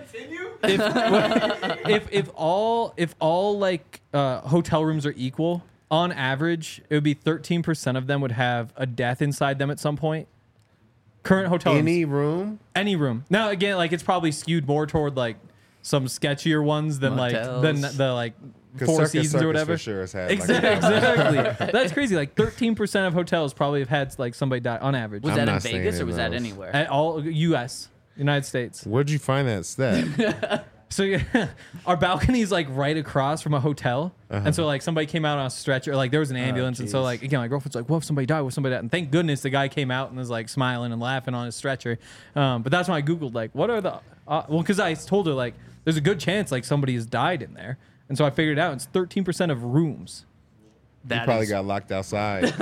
if if if all if all like uh, hotel rooms are equal on average, it would be thirteen percent of them would have a death inside them at some point. Current hotel any rooms, room. any room. Now again, like it's probably skewed more toward like some sketchier ones than like than Motels. the like 'Cause Four Circus Seasons Circus or whatever. for sure has had, like, Exactly. exactly. That's crazy. Like thirteen percent of hotels probably have had like somebody die on average. Was I'm that in not saying Vegas or in was that those. anywhere? At all U S United States. Where'd you find that stat? So yeah, our balcony is like right across from a hotel, and so like somebody came out on a stretcher, like there was an ambulance, and so jeez. like again, my girlfriend's like, "What if somebody died? What if somebody died?" And thank goodness the guy came out and was like smiling and laughing on his stretcher. Um, but that's when I googled like, what are the uh, well, because I told her like, there's a good chance like somebody has died in there, and so I figured it out. It's thirteen percent of rooms. You That probably is- got locked outside in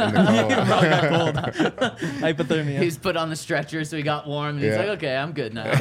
the cold. Hypothermia. He's put on the stretcher so he got warm and he's Yeah. like, okay, I'm good now.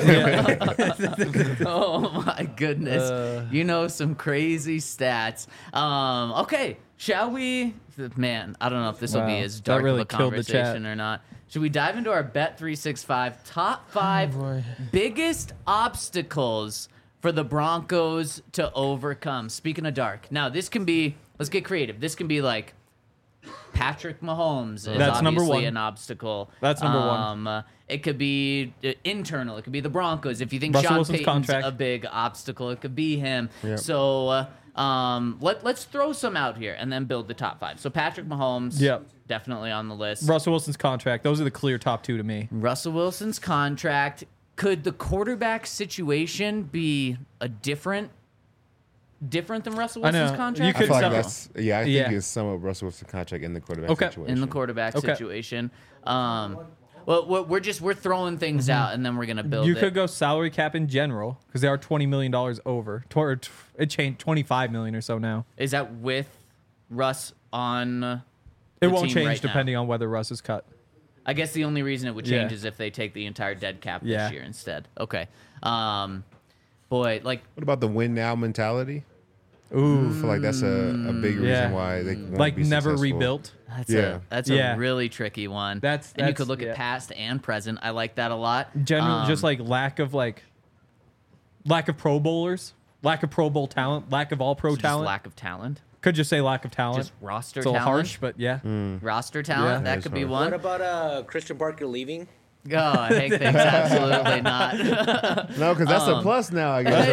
Oh my goodness. Uh. You know some crazy stats. Um, okay, shall we? Man, I don't know if this will Wow, be as that dark really of a killed the chat. conversation or not. Should we dive into our Bet three sixty-five top five Oh, boy. biggest obstacles for the Broncos to overcome? Speaking of dark, now this can be. Let's get creative. This can be like Patrick Mahomes is That's number obviously one. an obstacle. That's number one. Um, uh, it could be uh, internal. It could be the Broncos. If you think Russell Sean Wilson's Payton's contract. a big obstacle, it could be him. Yep. So uh, um, let let's throw some out here and then build the top five. So Patrick Mahomes, Yep. definitely on the list. Russell Wilson's contract. Those are the clear top two to me. Russell Wilson's contract. Could the quarterback situation be a different, different than Russell I know. Wilson's You contract? I could feel like some- that's yeah. I think Yeah. it's somewhat Russell Wilson contract in the quarterback Okay. situation. in the quarterback Okay. situation. Um, well, we're we're just we're throwing things out and then we're gonna build. Mm-hmm. You it. could go salary cap in general because they are twenty million dollars over. Tw- or t- it changed twenty-five million or so now. Is that with Russ on? uh, It the won't team change right now? depending on whether Russ is cut. I guess the only reason it would change Yeah. is if they take the entire dead cap Yeah. this year instead. Okay. Um, boy, like What about the win now mentality? Ooh, I feel like that's a, a big reason Yeah. why they won't like be never successful. rebuilt. That's Yeah. a that's Yeah. a really tricky one. That's- and you that's- could look yeah. at past and present. I like that a lot. General, Um, just like lack of like lack of Pro Bowlers, lack of Pro Bowl talent, lack of All Pro just talent. lack of talent, Could just say lack of talent. just roster it's a little talent, harsh, but yeah. roster talent. Yeah. That That could is be harsh. one. What about uh Christian Parker leaving? Oh, I hate things. Absolutely not. No, because that's Um, a plus now, I guess.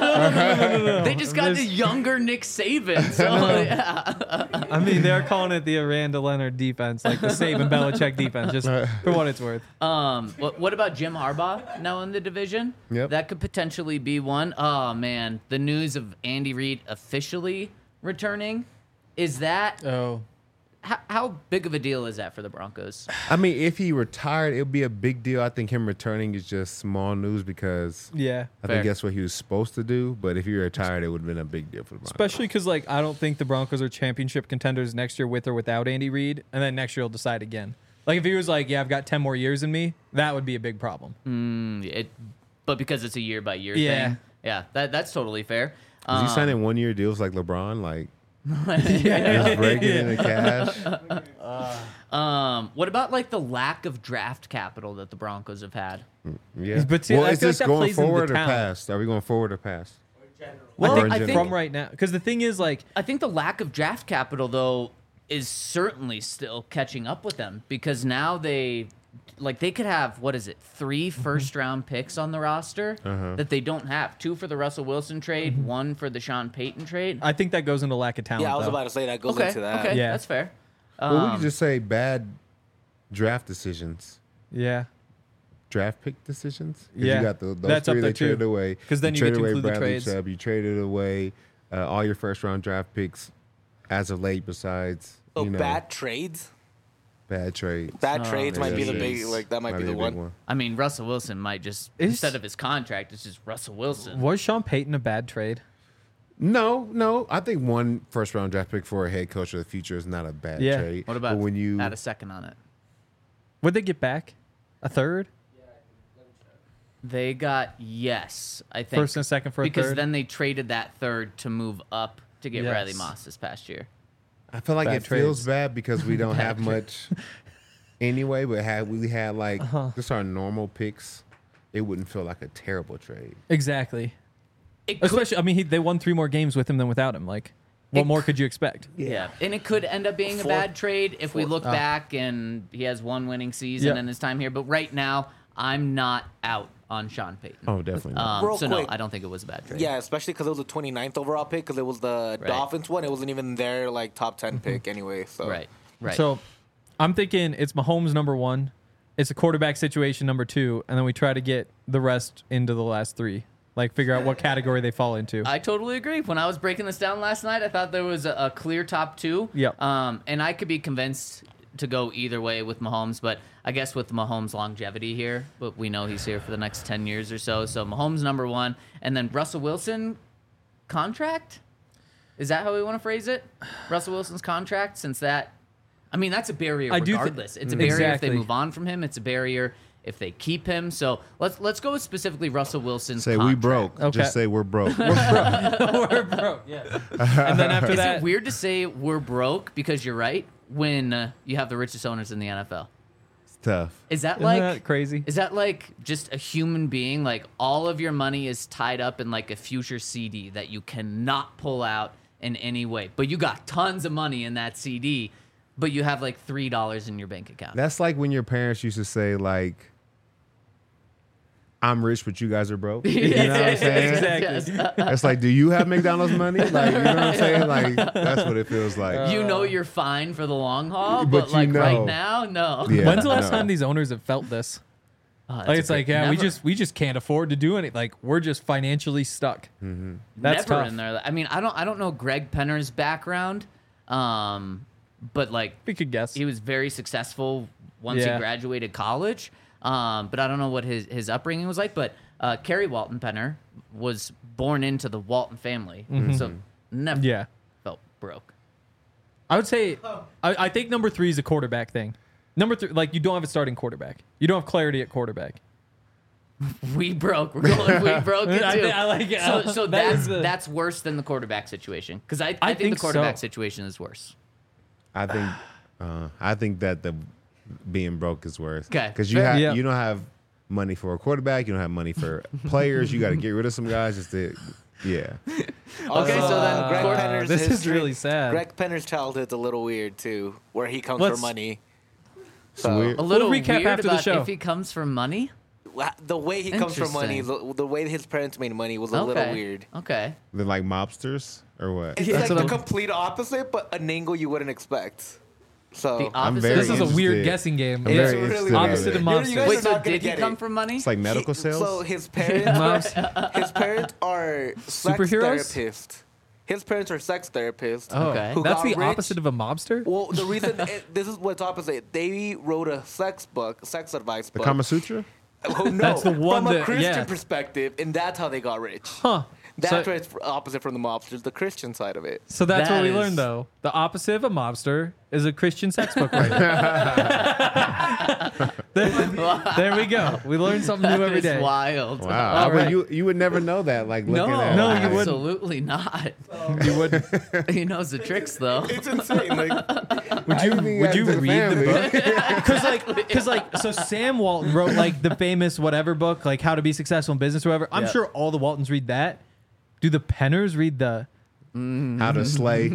Right? They just got the This- younger Nick Saban. So yeah. I mean, they're calling it the Aranda Leonard defense, like the Saban Belichick defense, just for what it's worth. Um, what, what about Jim Harbaugh now in the division? Yep. That could potentially be one. Oh man, the news of Andy Reid officially returning. Is that Oh, how, how big of a deal is that for the Broncos? I mean, if he retired, it would be a big deal. I think him returning is just small news because yeah. I Fair. think that's what he was supposed to do. But if he retired, it would have been a big deal for the Broncos. Especially because, like, I don't think the Broncos are championship contenders next year with or without Andy Reid, and then next year he'll decide again. Like, if he was like, "Yeah, I've got ten more years in me," that would be a big problem. Mm, it, but because it's a year by year Yeah. thing. Yeah, that that's totally fair. Is Um, he signing one year deals like LeBron? Like, just breaking in the cash? Um, what about like the lack of draft capital that the Broncos have had? Yeah. But see, well, I is feel like this that going plays into the forward or talent. past? Are we going forward or past? Well, Or I in think, I general? think from right now, because the thing is, like, I think the lack of draft capital, though, is certainly still catching up with them because now they, like, they could have, what is it, three first round picks on the roster Uh-huh. that they don't have. Two for the Russell Wilson trade, one for the Sean Payton trade. I think that goes into lack of talent. Yeah, I was though. about to say that goes Okay, into that. okay, Yeah. that's fair. Well, we Um, could just say bad draft decisions. Yeah, Draft pick decisions. 'Cause Yeah. you got the, those That's up three there they traded too. away. 'Cause then you traded get to away include the Bradley trades. Chubb. You traded away uh, all your first round draft picks as of late. Besides, So you know, bad trades. bad trades. Bad Oh, trades might be the Yes, big yes. like that might, be the a one. big I mean, Russell Wilson might just, Is- instead of his contract, it's just Russell Wilson. was Sean Payton a bad trade? No, no. I think one first round draft pick for a head coach of the future is not a bad Yeah. trade. What about But when you add a second on it? Would they get back a third? They got yes, I think. First and second for a because third? then they traded that third to move up to get Yes. Riley Moss this past year. I feel like Bad it feels trades. bad because we don't have much anyway. But had we had like Uh-huh. just our normal picks, it wouldn't feel like a terrible trade. Exactly. It could, Especially, I mean, he, they won three more games with him than without him. Like, what It more c- could you expect? yeah, and it could end up being a Four- bad trade if we four- look Ah. back and he has one winning season Yeah. in his time here. But right now, I'm not out on Sean Payton. Oh, definitely. Not. Um, Real so no, quick. I don't think it was a bad trade. Yeah, especially because it was the twenty-ninth overall pick because it was the Right. Dolphins one. It wasn't even their like top ten pick anyway. So right, right. So, I'm thinking it's Mahomes number one, it's a quarterback situation number two, and then we try to get the rest into the last three. Like, figure out what category they fall into. I totally agree. When I was breaking this down last night, I thought there was a, a clear top two. Yep. Um, and I could be convinced to go either way with Mahomes, but I guess with Mahomes' longevity here, but we know he's here for the next ten years or so. So Mahomes number one, and then Russell Wilson contract. Is that how we want to phrase it? Russell Wilson's contract, since that, I mean, that's a barrier I do thi- regardless. it's a barrier if Exactly. they move on from him. It's a barrier if they keep him. So let's let's go with specifically Russell Wilson's Say contract. we broke. Okay. Just say we're broke. We're broke, yeah. And then after Is that, it weird to say we're broke because you're right when uh, you have the richest owners in the N F L? It's tough. Is that isn't like that crazy? Is that like just a human being? Like all of your money is tied up in like a future C D that you cannot pull out in any way, but you got tons of money in that C D, but you have like three dollars in your bank account. That's like when your parents used to say like, "I'm rich, but you guys are broke." You know what I'm saying? Exactly. Yes. It's like, do you have McDonald's money? Like, you know what I'm saying? Like, that's what it feels like. You know you're fine for the long haul, But but, you like right know. now, no. Yeah, When's the last no. time these owners have felt this? Oh, that's Like, a it's like, great- yeah, we never- just we just can't afford to do anything. Like, we're just financially stuck. Mm-hmm. That's never tough. in there. I mean, I don't I don't know Greg Penner's background, um, but like We could guess. he was very successful once Yeah. he graduated college. Um, but I don't know what his, his upbringing was like. But uh, Kerry Walton Penner was born into the Walton family, so never Mm-hmm. Yeah. felt broke. I would say, I, I think number three is a quarterback thing. Number three, like, you don't have a starting quarterback. You don't have clarity at quarterback. We broke. We're going. We broke it too. I think I like it. So, so That that's is the- that's worse than the quarterback situation because I, I, I think, think the quarterback so. situation is worse. I think uh, I think that the being broke is worse. 'Kay. Because you Fair. have Yeah. you don't have money for a quarterback. You don't have money for players. You got to get rid of some guys just to yeah. Okay, so then Uh, Greg Cor- Penner's this is history- really sad. Greg Penner's childhood's a little weird too, where he comes Let's- for money. It's weird. a little We'll recap weird after the about show. if he comes from money. The way he comes for money, Interesting. the, the way his parents made money was a Okay. little weird. Okay. They're like mobsters or what? It's That's like what the I'm- complete opposite, but an angle you wouldn't expect. So The I'm opposite. very This is a weird interested. guessing game. I'm It's very really interested in opposite it. of mob- You guys Wait, are so not gonna did he get come it. from money? It's like medical He- sales. So his parents, his parents are sex Superheroes? therapists. His parents are sex therapists. Oh, Okay. who that's got the rich. opposite of a mobster. Well, the reason it, this is what's opposite. They wrote a sex book, sex advice the book. Kama Sutra. Oh, no, That's the one from a that- Christian yeah. perspective, and that's how they got rich. Huh. That's So- why it's opposite from the mobsters, the Christian side of it. So that's That what we is- learned, though. The opposite of a mobster is a Christian sex book writer. there, there we go. We learn something new That every is day. wild. Wow. All I mean, right. you you would never know that. Like No, looking at No, it. you wouldn't. absolutely not. You would. He knows the tricks though. It's insane. Like, Would you Would you read the book? Because like, because like, so Sam Walton wrote like the famous whatever book, like How to Be Successful in Business or whatever. I'm Yeah. sure all the Waltons read that. Do the Penners read the? How to slay.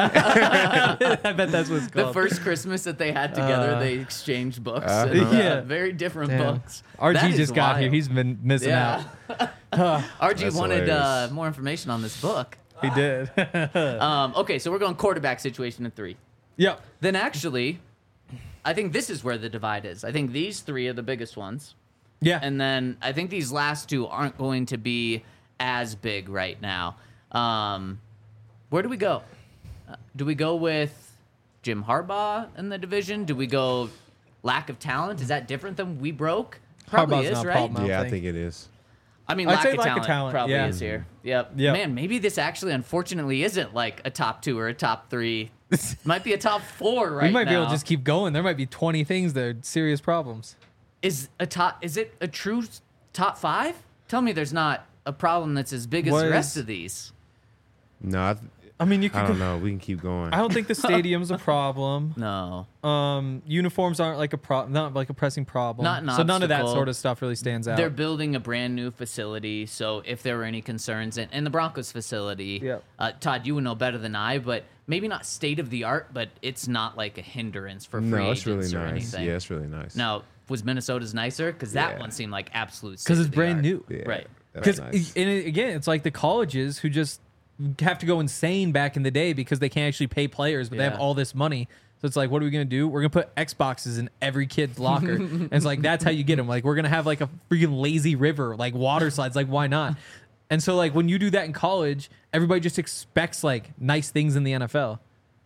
I bet that's what it's The called. first Christmas that they had together, Uh, they exchanged books. uh-huh. and, uh, Yeah. very different Damn. books. R G That is just got here. wild. He's been missing yeah. out. R G That's wanted uh, hilarious. more information on this book. He did. Um, okay, so we're going quarterback situation in three. Yep. Then actually, I think this is where the divide is. I think these three are the biggest ones. Yeah. And then I think these last two aren't going to be as big right now. Um, where do we go? Uh, do we go with Jim Harbaugh in the division? Do we go lack of talent? Is that different than we broke? Probably Harbaugh's is, not a right? problem. I don't Yeah, I think. think it is. I mean, I'd lack, say of, lack of talent talent, probably yeah. is here. Yep. Yep. Man, maybe this actually, unfortunately, isn't like a top two or a top three. Might be a top four right we might now. be able to just keep going. There might be twenty things that are serious problems. Is a top? Is it a true top five? Tell me, there's not a problem that's as big as What the rest is- of these. No, I, th- I mean, you I could. don't go- know. We can keep going. I don't think the stadium's a problem. No. Um, uniforms aren't like a pro, not like a pressing problem. Not an so none of that obstacle. sort of stuff really stands out. They're building a brand new facility, so if there were any concerns, and, and the Broncos facility, Yep. uh, Todd, you would know better than I, but maybe not state of the art, but it's not like a hindrance for free no, it's really agents or nice. anything. Yeah, it's really nice. Now, was Minnesota's nicer? Because that Yeah. one seemed like absolute. because it's state-of-the-art. brand new. Yeah, Right. that was Because nice. again, it's like the colleges who just have to go insane back in the day because they can't actually pay players, but they have Yeah. all this money. So it's like, what are we gonna do? We're gonna put Xboxes in every kid's locker, and it's like that's how you get them. Like we're gonna have like a freaking lazy river, like water slides. Like why not? And so like when you do that in college, everybody just expects like nice things in the N F L.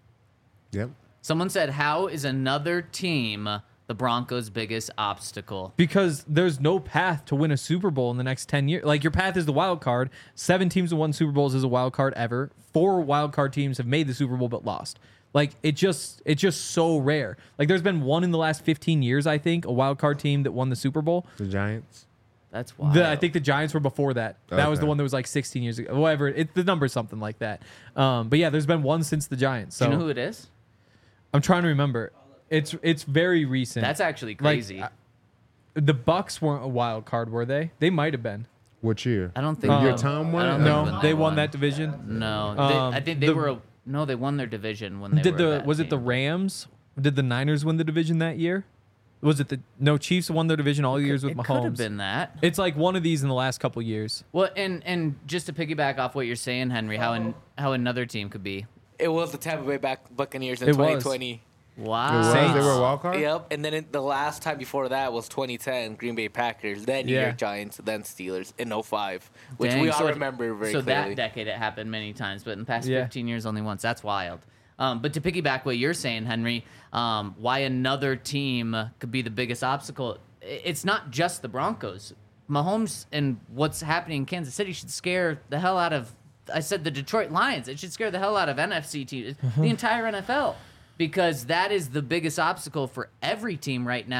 Yep. Someone said, "How is another team the Broncos' biggest obstacle?" Because there's no path to win a Super Bowl in the next ten years. Like your path is the wild card. Seven teams have won Super Bowls as a wild card ever. Four wild card teams have made the Super Bowl but lost. Like it just it's just so rare. Like there's been one in the last fifteen years, I think, a wild card team that won the Super Bowl. The Giants. That's wild. The, I think the Giants were before that. That was the Okay. one that was like sixteen years ago. Whatever. It, the number's something like that. Um, but yeah, there's been one since the Giants. So Do you know who it is? I'm trying to remember. It's it's very recent. That's actually Like, crazy. uh, the Bucks weren't a wild card, were they? They might have been. What year? I don't think Um, Your no. Tom I won don't it? think No, when they won that division. No, they, Um, I think they the- were. A, no, they won their division when they Did were. a the bad was it the team. Rams? Did the Niners win the division that year? Was it the no Chiefs won their division all years with It Mahomes? could have been that. It's like one of these in the last couple years. Well, and and just to piggyback off what you're saying, Henry, how an, how another team could be. it was the Tampa Bay Bac- Buccaneers in It was. twenty twenty. Wow. It was? Saints. They were a wild card? Yep, and then it, the last time before that was twenty ten, Green Bay Packers, then New Yeah. York Giants, then Steelers in oh five, which Dang, we all so it- remember very So clearly. that decade it happened many times, but in the past Yeah. fifteen years only once. That's wild. Um, but to piggyback what you're saying, Henry, um, why another team could be the biggest obstacle? i- It's not just the Broncos. Mahomes and what's happening in Kansas City should scare the hell out of. I said the Detroit Lions. It should scare the hell out of N F C teams, the entire N F L, because that is the biggest obstacle for every team right now.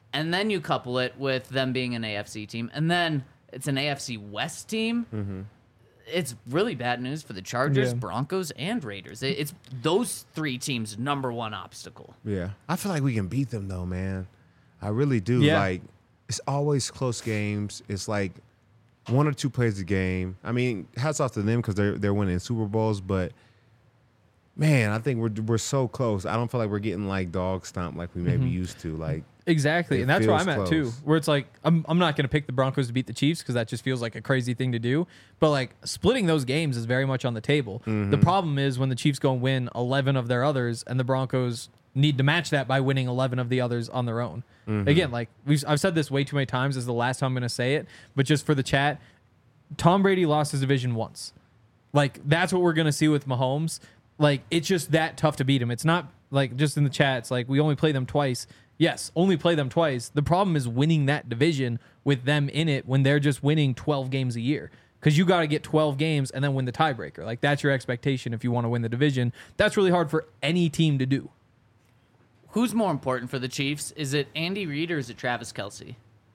and then you couple it with them being an A F C team, and then it's an A F C West team. Mm-hmm. It's really bad news for the Chargers, Yeah. Broncos, and Raiders. It, it's those three teams' number one obstacle. Yeah. I feel like we can beat them though, man. I really do. Yeah. Like it's always close games. It's like one or two plays a game. I mean, hats off to them because they're they're winning Super Bowls, but man, I think we're we're so close. I don't feel like we're getting like dog stomped like we maybe Mm-hmm. used to. Like Exactly, It and that's where feels I'm at too. close. Where it's like I'm I'm not going to pick the Broncos to beat the Chiefs because that just feels like a crazy thing to do. But like splitting those games is very much on the table. Mm-hmm. The problem is when the Chiefs go and win eleven of their others, and the Broncos need to match that by winning eleven of the others on their own. Mm-hmm. Again, like we've I've said this way too many times. This is the last time I'm going to say it, but just for the chat, Tom Brady lost his division once. Like that's what we're going to see with Mahomes. Like it's just that tough to beat him. It's not like just in the chat. It's like we only play them twice. Yes, only play them twice. The problem is winning that division with them in it when they're just winning twelve games a year. Because you got to get twelve games and then win the tiebreaker. Like that's your expectation if you want to win the division. That's really hard for any team to do. Who's more important for the Chiefs? Is it Andy Reid or is it Travis Kelce?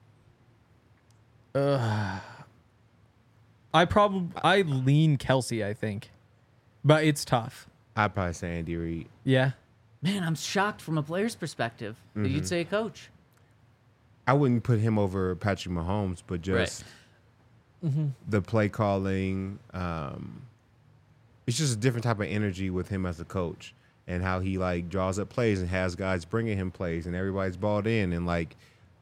I probably I lean Kelsey, I think, but it's tough. I'd probably say Andy Reid. Yeah, Man, I'm shocked from a player's perspective that Mm-hmm. you'd say a coach. I wouldn't put him over Patrick Mahomes, but just Mm-hmm. the play calling. Um, it's just a different type of energy with him as a coach and how he like draws up plays and has guys bringing him plays and everybody's balled in. And like,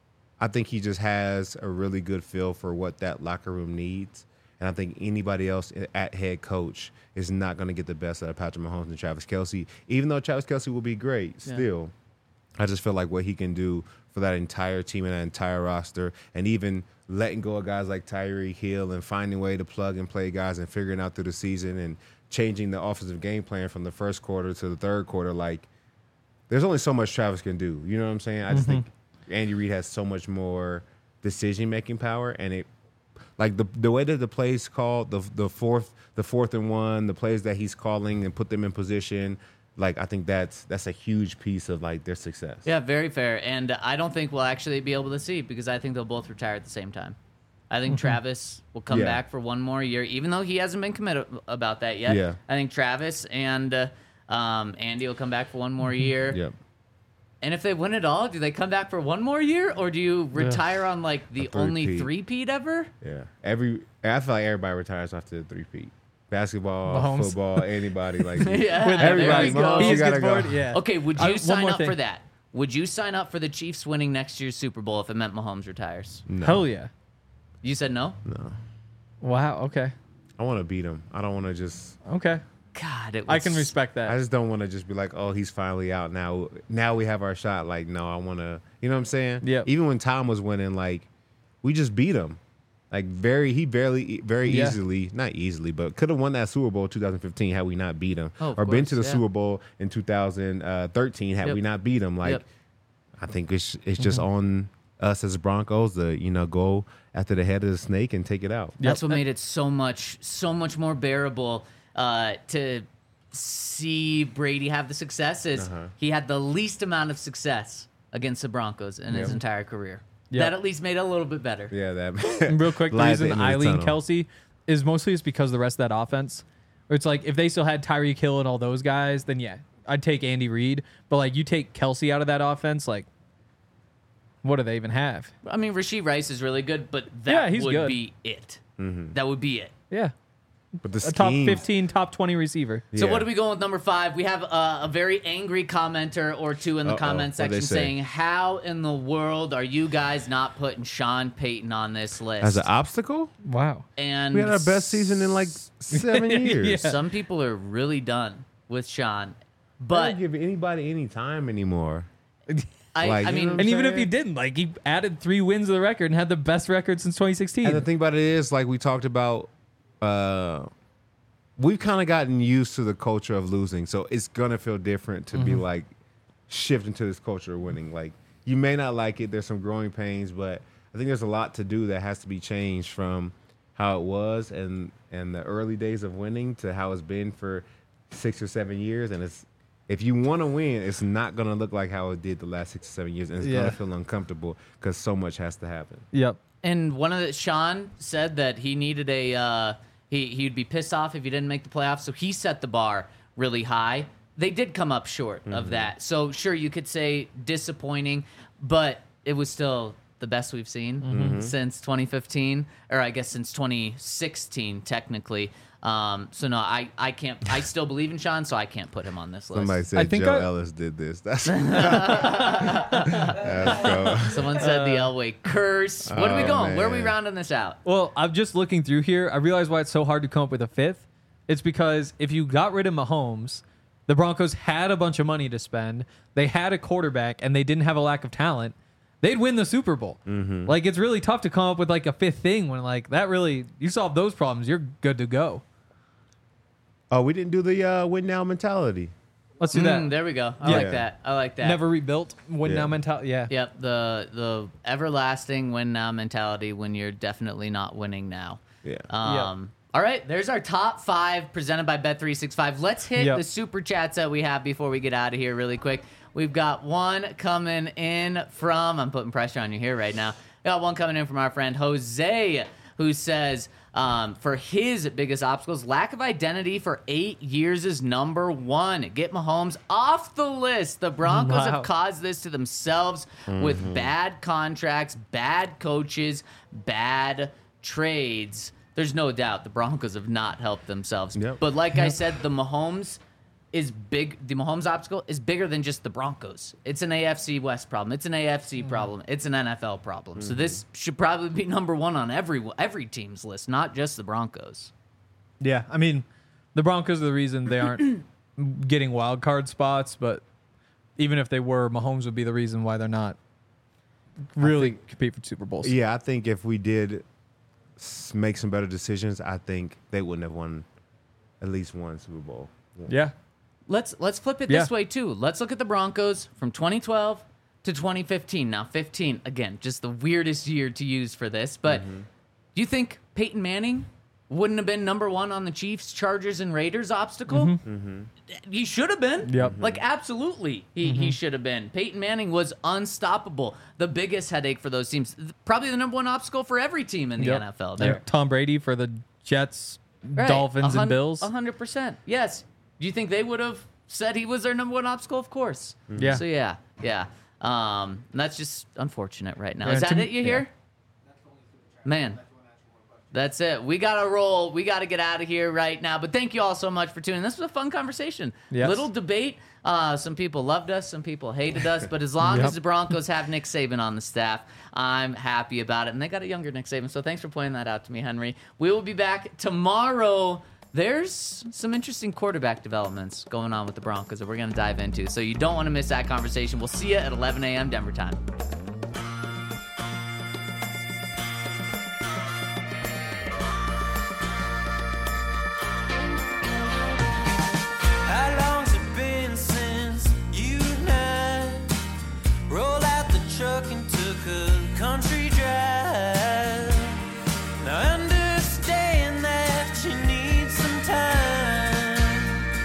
I think he just has a really good feel for what that locker room needs. And I think anybody else at head coach is not going to get the best out of Patrick Mahomes and Travis Kelce, even though Travis Kelce will be great Yeah. still. I just feel like what he can do for that entire team and that entire roster, and even letting go of guys like Tyreek Hill and finding a way to plug and play guys and figuring out through the season and changing the offensive game plan from the first quarter to the third quarter. Like, there's only so much Travis can do. You know what I'm saying? I just think Andy Reid has so much more decision-making power, and it like the the way that the plays called, the the fourth the fourth and one, the plays that he's calling and put them in position. Like, I think that's that's a huge piece of like their success. Yeah, very fair. And I don't think we'll actually be able to see because I think they'll both retire at the same time. I think Travis will come Yeah. back for one more year, even though he hasn't been committed about that yet. Yeah. I think Travis and uh, um, Andy will come back for one more year. Yep. And if they win it all, do they come back for one more year, or do you retire on like the A only three-peat. three-peat ever? Yeah. Every I feel like everybody retires after the three-peat. Basketball, Mahomes. football, anybody like Yeah, With everybody. there we go. Mahomes, He you just gotta gets go. bored. Yeah. Okay, would I- you one sign more up for thing. that? Would you sign up for the Chiefs winning next year's Super Bowl if it meant Mahomes retires? No. Hell yeah. You said no? No. Wow. Okay. I want to beat him. I don't want to just. Okay. God, it was I can respect that. I just don't want to just be like, oh, he's finally out now. Now we have our shot. Like, no, I want to. You know what I'm saying? Yep. Even when Tom was winning, like, we just beat him. Like, very, he barely, very Yeah. easily, not easily, but could have won that Super Bowl twenty fifteen had we not beat him, Oh, of or been course, to the yeah. Super Bowl in two thousand thirteen had Yep. we not beat him. Like, Yep. I think it's it's just on us as Broncos to you know go after the head of the snake and take it out. That's what made it so much, so much more bearable uh, to see Brady have the successes. Uh-huh. He had the least amount of success against the Broncos in his Yep. entire career. Yep. That at least made it a little bit better. Yeah, that. And real quick, the Light at the reason end of the I lean tunnel. Kelsey is mostly just because of the rest of that offense. Where it's like if they still had Tyreek Hill and all those guys, then yeah, I'd take Andy Reid. But like you take Kelsey out of that offense, like what do they even have? I mean, Rasheed Rice is really good, but that Yeah, he's would good. be it. Mm-hmm. That would be it. Yeah, But the a top schemes- fifteen, top twenty receiver. So Yeah. what are we going with number five? We have uh, a very angry commenter or two in the Uh-oh. comment What'd they section say? saying, "How in the world are you guys not putting Sean Payton on this list?" as an obstacle? Wow. and We had our best season in like seven years. Yeah. some people are really done with Sean, But but don't give anybody any time anymore. I, like, I you mean, know what And even if saying? he didn't, like he added three wins to the record and had the best record since twenty sixteen. And the thing about it is, like we talked about, uh, we've kind of gotten used to the culture of losing, so it's gonna feel different to be like shifting to this culture of winning. Like you may not like it. There's some growing pains, but I think there's a lot to do that has to be changed from how it was and and the early days of winning to how it's been for six or seven years, and it's if you want to win, it's not going to look like how it did the last six or seven years, and it's Yeah. going to feel uncomfortable because so much has to happen. Yep. And one of the Sean said that he needed a uh, he he'd be pissed off if he didn't make the playoffs, so he set the bar really high. They did come up short of that, so sure you could say disappointing, but it was still the best we've seen since twenty fifteen, or I guess since twenty sixteen technically. Um, so no, I, I can't. I still believe in Sean, so I can't put him on this list. Somebody said I think Joe I- Ellis did this. That's, That's cool. Someone said the Elway curse. What are we Oh, going? Where are we man. rounding this out? Well, I'm just looking through here. I realize why it's so hard to come up with a fifth. It's because if you got rid of Mahomes, the Broncos had a bunch of money to spend. They had a quarterback, and they didn't have a lack of talent. They'd win the Super Bowl. Mm-hmm. Like, it's really tough to come up with like a fifth thing when like that really you solve those problems, you're good to go. Oh, we didn't do the uh, win now mentality. Let's do that. Mm, there we go. I Yeah. like that. I like that. Never rebuilt. Win Yeah. now mentality. Yeah. Yep, the the everlasting win now mentality when you're definitely not winning now. Yeah. Um All right, there's our top five presented by Bet three sixty-five. Let's hit Yep. the super chats that we have before we get out of here really quick. We've got one coming in from, I'm putting pressure on you here right now. We got one coming in from our friend Jose, who says, um, for his biggest obstacles, lack of identity for eight years is number one. Get Mahomes off the list. The Broncos Wow. have caused this to themselves with bad contracts, bad coaches, bad trades. There's no doubt the Broncos have not helped themselves. Yep. But like I said, the Mahomes is big. The Mahomes obstacle is bigger than just the Broncos. It's an A F C West problem. It's an A F C problem. It's an N F L problem. So this should probably be number one on every every team's list, not just the Broncos. Yeah, I mean, the Broncos are the reason they aren't getting wild card spots, but even if they were, Mahomes would be the reason why they're not really think- compete for Super Bowls. Yeah, I think if we did s- make some better decisions, I think they wouldn't have won at least one Super Bowl. Yeah. Let's let's flip it Yeah. this way too. Let's look at the Broncos from twenty twelve to twenty fifteen. Now fifteen, again, just the weirdest year to use for this. But Mm-hmm. do you think Peyton Manning wouldn't have been number one on the Chiefs, Chargers, and Raiders obstacle? He should have been. Yep. Like absolutely, he he should have been. Peyton Manning was unstoppable. The biggest headache for those teams, probably the number one obstacle for every team in the Yep. N F L. Like There, Tom Brady for the Jets, Right. Dolphins, A hun- and Bills. A hundred percent. Yes. Do you think they would have said he was their number one obstacle? Of course. Yeah. So yeah, yeah. Um, and that's just unfortunate right now. Yeah, Is that to- it? You yeah. hear? Man. That's it. We got to roll. We got to get out of here right now. But thank you all so much for tuning in. This was a fun conversation. Yes. Little debate. Uh, some people loved us. Some people hated us. But as long Yep. as the Broncos have Nick Saban on the staff, I'm happy about it. And they got a younger Nick Saban. So thanks for pointing that out to me, Henry. We will be back tomorrow. There's some interesting quarterback developments going on with the Broncos that we're going to dive into. So you don't want to miss that conversation. We'll see you at eleven a.m. Denver time. How long's it been since you and I rolled out the truck and took a country drive? Now I understand that you need some time.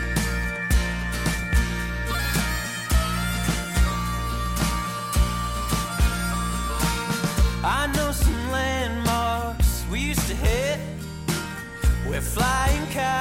I know some landmarks we used to hit where flying cows